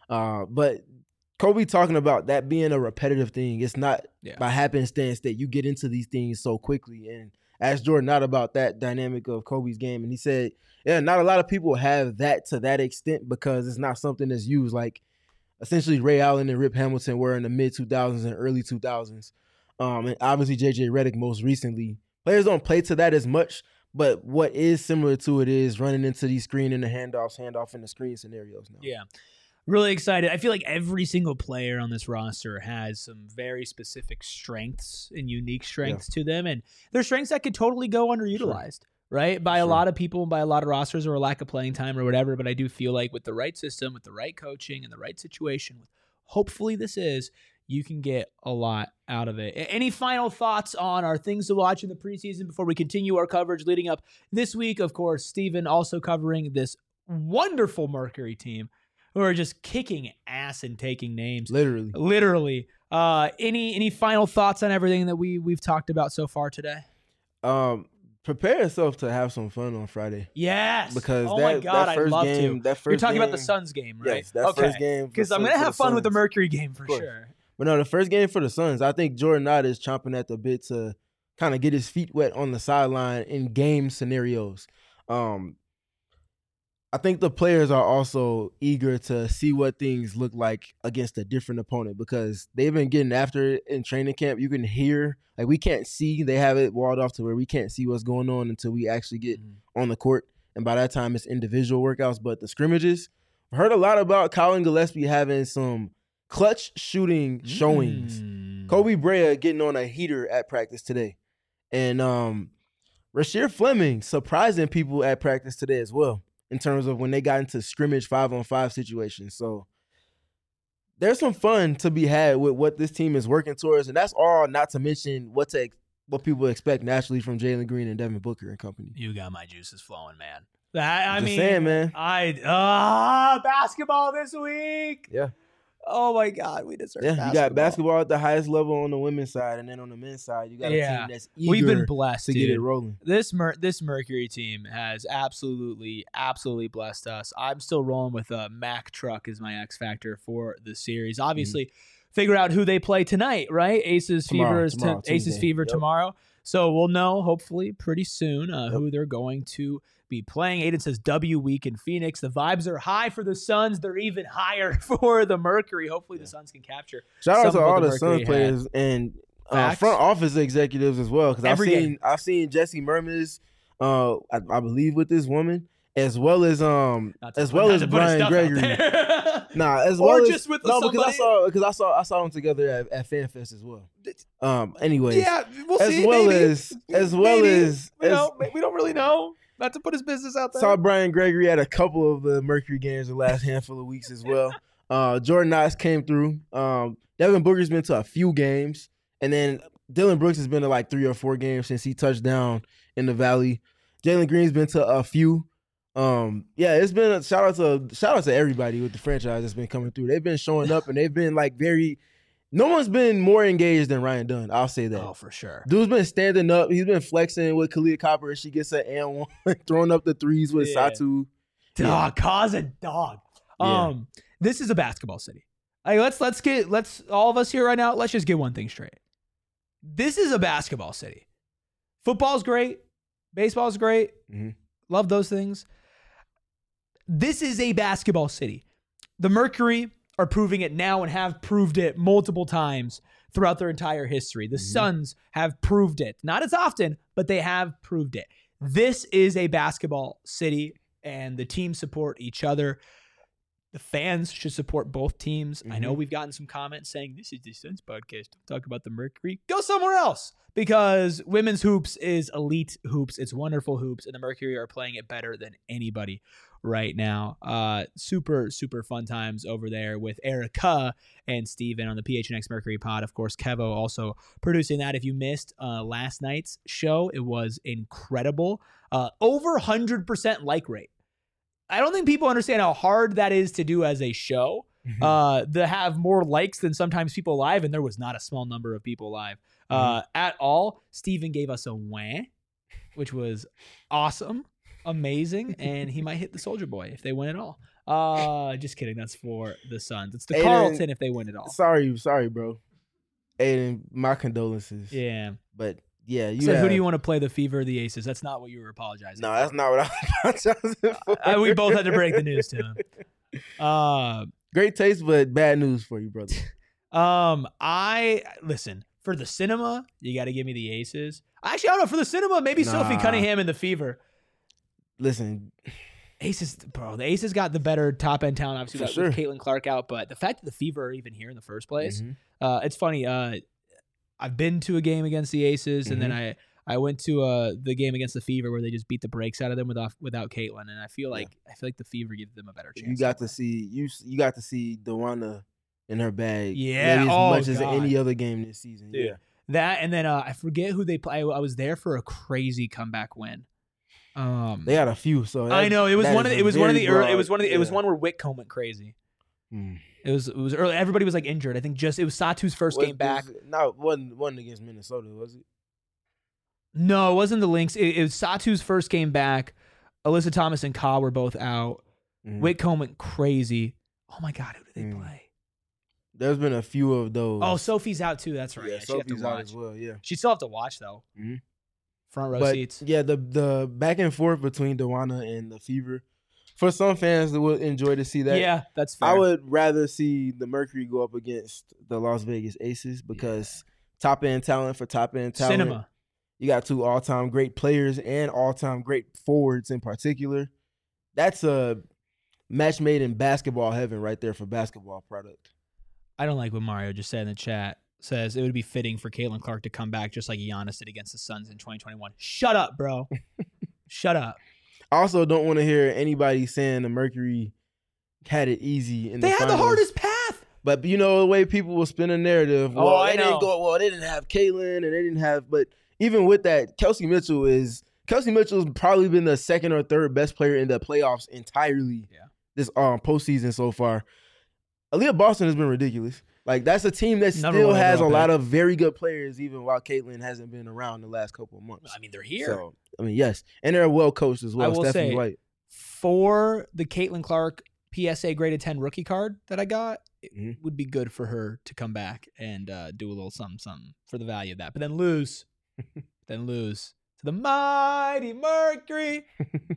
But Kobe talking about that being a repetitive thing. It's not by happenstance that you get into these things so quickly. And asked Jordan Ott about that dynamic of Kobe's game, and he said, "Yeah, not a lot of people have that to that extent because it's not something that's used like." Essentially, Ray Allen and Rip Hamilton were in the mid-2000s and early 2000s. And obviously, J.J. Redick most recently. Players don't play to that as much, but what is similar to it is running into these screen and the handoff and the screen scenarios now. Yeah. Really excited. I feel like every single player on this roster has some very specific strengths and unique strengths to them, and they're strengths that could totally go underutilized. Sure. Right? By a lot of people and by a lot of rosters or a lack of playing time or whatever. But I do feel like with the right system, with the right coaching and the right situation, hopefully you can get a lot out of it. Any final thoughts on our things to watch in the preseason before we continue our coverage leading up this week? Of course, Steven also covering this wonderful Mercury team who are just kicking ass and taking names. Literally. Any final thoughts on everything that we've talked about so far today? Prepare yourself to have some fun on Friday. Yes. Because my God, I'd love to. You're talking about the Suns game, right? Yes, first game. Because I'm going to have fun with the Mercury game for sure. But no, the first game for the Suns, I think Jordan Ott is chomping at the bit to kind of get his feet wet on the sideline in game scenarios. I think the players are also eager to see what things look like against a different opponent because they've been getting after it in training camp. You can hear, like we can't see, they have it walled off to where we can't see what's going on until we actually get on the court. And by that time, it's individual workouts. But the scrimmages, I heard a lot about Colin Gillespie having some clutch shooting showings. Kobe Bryant getting on a heater at practice today. And Rasheer Fleming surprising people at practice today as well in terms of when they got into scrimmage 5-on-5 situations. So there's some fun to be had with what this team is working towards, and that's all not to mention what people expect naturally from Jalen Green and Devin Booker and company. You got my juices flowing, man. I mean, saying, man. Basketball this week. Yeah. Oh my God, we deserve basketball. You got basketball at the highest level on the women's side, and then on the men's side, you got a team that's eager We've been blessed to get it rolling. This Mercury team has absolutely blessed us. I'm still rolling with Mack Truck as my X factor for the series. Obviously, figure out who they play tonight, right? Aces Fever tomorrow. So we'll know hopefully pretty soon who they're going to be playing. Aiden says W week in Phoenix. The vibes are high for the Suns. They're even higher for the Mercury. Hopefully the Suns can capture. Shout out to all the Suns players and front office executives as well. Because I've seen Jesse Mermis, I believe, with this woman, as well as Brian Gregory. Just with somebody. Because I saw them together at FanFest as well. Anyways, yeah, we'll see. We don't really know. Not to put his business out there. Saw Brian Gregory at a couple of the Mercury games the last handful of weeks as well. Jordan Knox came through. Devin Booker's been to a few games. And then Dylan Brooks has been to like 3 or 4 games since he touched down in the Valley. Jalen Green's been to a few. It's been a shout out to everybody with the franchise that's been coming through. They've been showing up and they've been like no one's been more engaged than Ryan Dunn. I'll say that. Oh, for sure. Dude's been standing up. He's been flexing with Kalia Copper as she gets an and one, throwing up the threes with Satu. Cause a dog. This is a basketball city. Let's all of us here right now, let's just get one thing straight. This is a basketball city. Football's great. Baseball's great. Mm-hmm. Love those things. This is a basketball city. The Mercury are proving it now and have proved it multiple times throughout their entire history. The Suns have proved it. Not as often, but they have proved it. This is a basketball city, and the teams support each other. The fans should support both teams. I know we've gotten some comments saying, this is the Suns podcast. Don't talk about the Mercury. Go somewhere else, because women's hoops is elite hoops. It's wonderful hoops, and the Mercury are playing it better than anybody right now. Super, super fun times over there with Erica and Steven on the PHNX Mercury pod. Of course, Kevo also producing that. If you missed last night's show, it was incredible. Over 100% like rate. I don't think people understand how hard that is to do as a show, to have more likes than sometimes people live, and there was not a small number of people live at all. Steven gave us a wah, which was awesome. Amazing, and he might hit the Soldier Boy if they win it all. Just kidding. That's for the Suns. It's the Carlton if they win it all. Sorry, bro. Aiden, my condolences. Yeah, but yeah, who do you want to play, the Fever or the Aces? That's not what you were apologizing. No, that's not what I was apologizing for. We both had to break the news to him. Great taste, but bad news for you, brother. Listen, for the cinema, you got to give me the Aces. Actually, I don't know. For the cinema, maybe Sophie Cunningham and the Fever. Listen, Aces, bro. The Aces got the better top end talent. Obviously, with Caitlin Clark out, but the fact that the Fever are even here in the first place, it's funny. I've been to a game against the Aces, and then I went to the game against the Fever where they just beat the brakes out of them without Caitlin, and I feel like the Fever gives them a better chance. You got to see DeWanna in her bag, as much as any other game this season. Dude. Yeah, that, and then I forget who they play. I was there for a crazy comeback win. They had a few, so I know it was one where Whitcomb went crazy. It was early. Everybody was like injured. I think it was Satu's first game back. No, it wasn't against Minnesota, was it? No, it wasn't the Lynx. It was Satu's first game back. Alyssa Thomas and Ka were both out. Whitcomb went crazy. Oh my God, who did they play? There's been a few of those. Oh, Sophie's out too. That's right. Yeah, Sophie's out as well. Yeah, she still have to watch though. Front row seats. Yeah, the back and forth between DeWanna and the Fever. For some fans that would enjoy to see that. Yeah, that's fair. I would rather see the Mercury go up against the Las Vegas Aces because top-end talent for top-end talent. Cinema. You got 2 all-time great players and all-time great forwards in particular. That's a match made in basketball heaven right there for basketball product. I don't like what Mario just said in the chat. says it would be fitting for Caitlin Clark to come back just like Giannis did against the Suns in 2021. Shut up, bro. Shut up. I also don't want to hear anybody saying the Mercury had it easy in the They had the finals. hardest path. But you know the way people will spin a narrative. Oh, Well, I they know. didn't go. Well, they didn't have Caitlin, and they didn't have. But even with that, Kelsey Mitchell's probably been the second or third best player in the playoffs entirely. Yeah. This postseason so far. Aaliyah Boston has been ridiculous. Like that's a team that Number still one has a overall lot pick. of very good players, even while Caitlin hasn't been around the last couple of months. I mean, they're here. So I mean, yes, and they're well coached as well. I will Stephanie say, White. for the Caitlin Clark PSA graded 10 rookie card that I got, it Mhm. would be good for her to come back and do a little something for the value of that. But then lose to the mighty Mercury.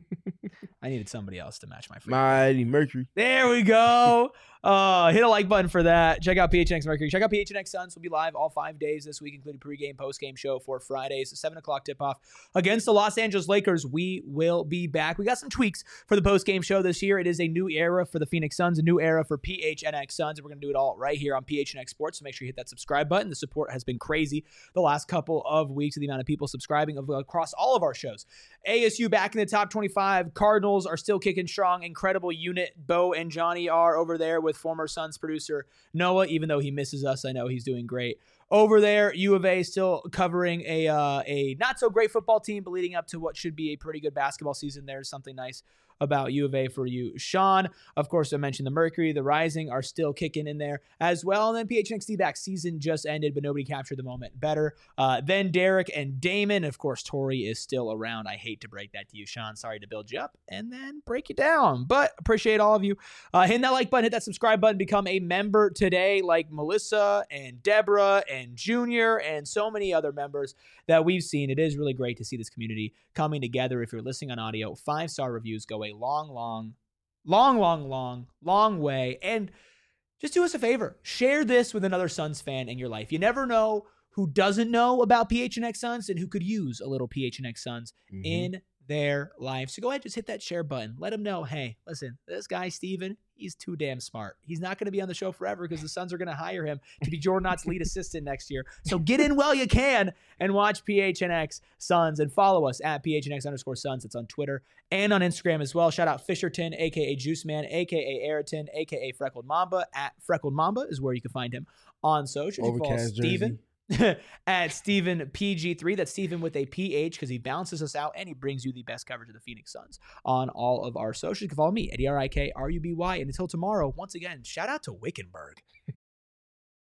I needed somebody else to match my free. Mighty Mercury. There we go. Hit a like button for that. Check out PHNX Mercury. Check out PHNX Suns. Will be live all 5 days this week, including pregame, postgame show for Fridays. 7 o'clock tip-off against the Los Angeles Lakers. We will be back. We got some tweaks for the postgame show this year. It is a new era for the Phoenix Suns, a new era for PHNX Suns, and we're going to do it all right here on PHNX Sports. So make sure you hit that subscribe button. The support has been crazy the last couple of weeks of the amount of people subscribing across all of our shows. ASU back in the top 25. Cardinals are still kicking strong. Incredible unit. Bo and Johnny are over there with former Suns producer Noah, even though he misses us. I know he's doing great. Over there, U of A still covering a not so great football team, but leading up to what should be a pretty good basketball season. There's something nice about U of A for you, Sean. Of course, I mentioned the Mercury, the Rising are still kicking in there as well. And then PHNX D-back season just ended, but nobody captured the moment better. Then Derek and Damon. Of course, Tori is still around. I hate to break that to you, Sean. Sorry to build you up and then break you down, but appreciate all of you. Hit that like button, hit that subscribe button, become a member today, like Melissa and Deborah and Junior and so many other members that we've seen. It is really great to see this community coming together. If you're listening on audio, 5-star reviews go a long way. And just do us a favor. Share this with another Suns fan in your life. You never know who doesn't know about PHNX Suns and who could use a little PHNX Suns in their life. So go ahead, just hit that share button. Let them know, hey, listen, this guy, Steven, he's too damn smart. He's not going to be on the show forever because the Suns are going to hire him to be Jordan Knott's lead assistant next year. So get in while you can and watch PHNX Suns and follow us at PHNX_Suns. It's on Twitter and on Instagram as well. Shout out Fisherton, a.k.a. Juice Man, a.k.a. Ayrton, a.k.a. Freckled Mamba. At Freckled Mamba is where you can find him on social. You can follow Overcast Steven. jersey. At Steven PG3. That's Steven with a PH because he balances us out and he brings you the best coverage of the Phoenix Suns on all of our socials. You can follow me at ERIKRUBY. And until tomorrow, once again, shout out to Wickenburg.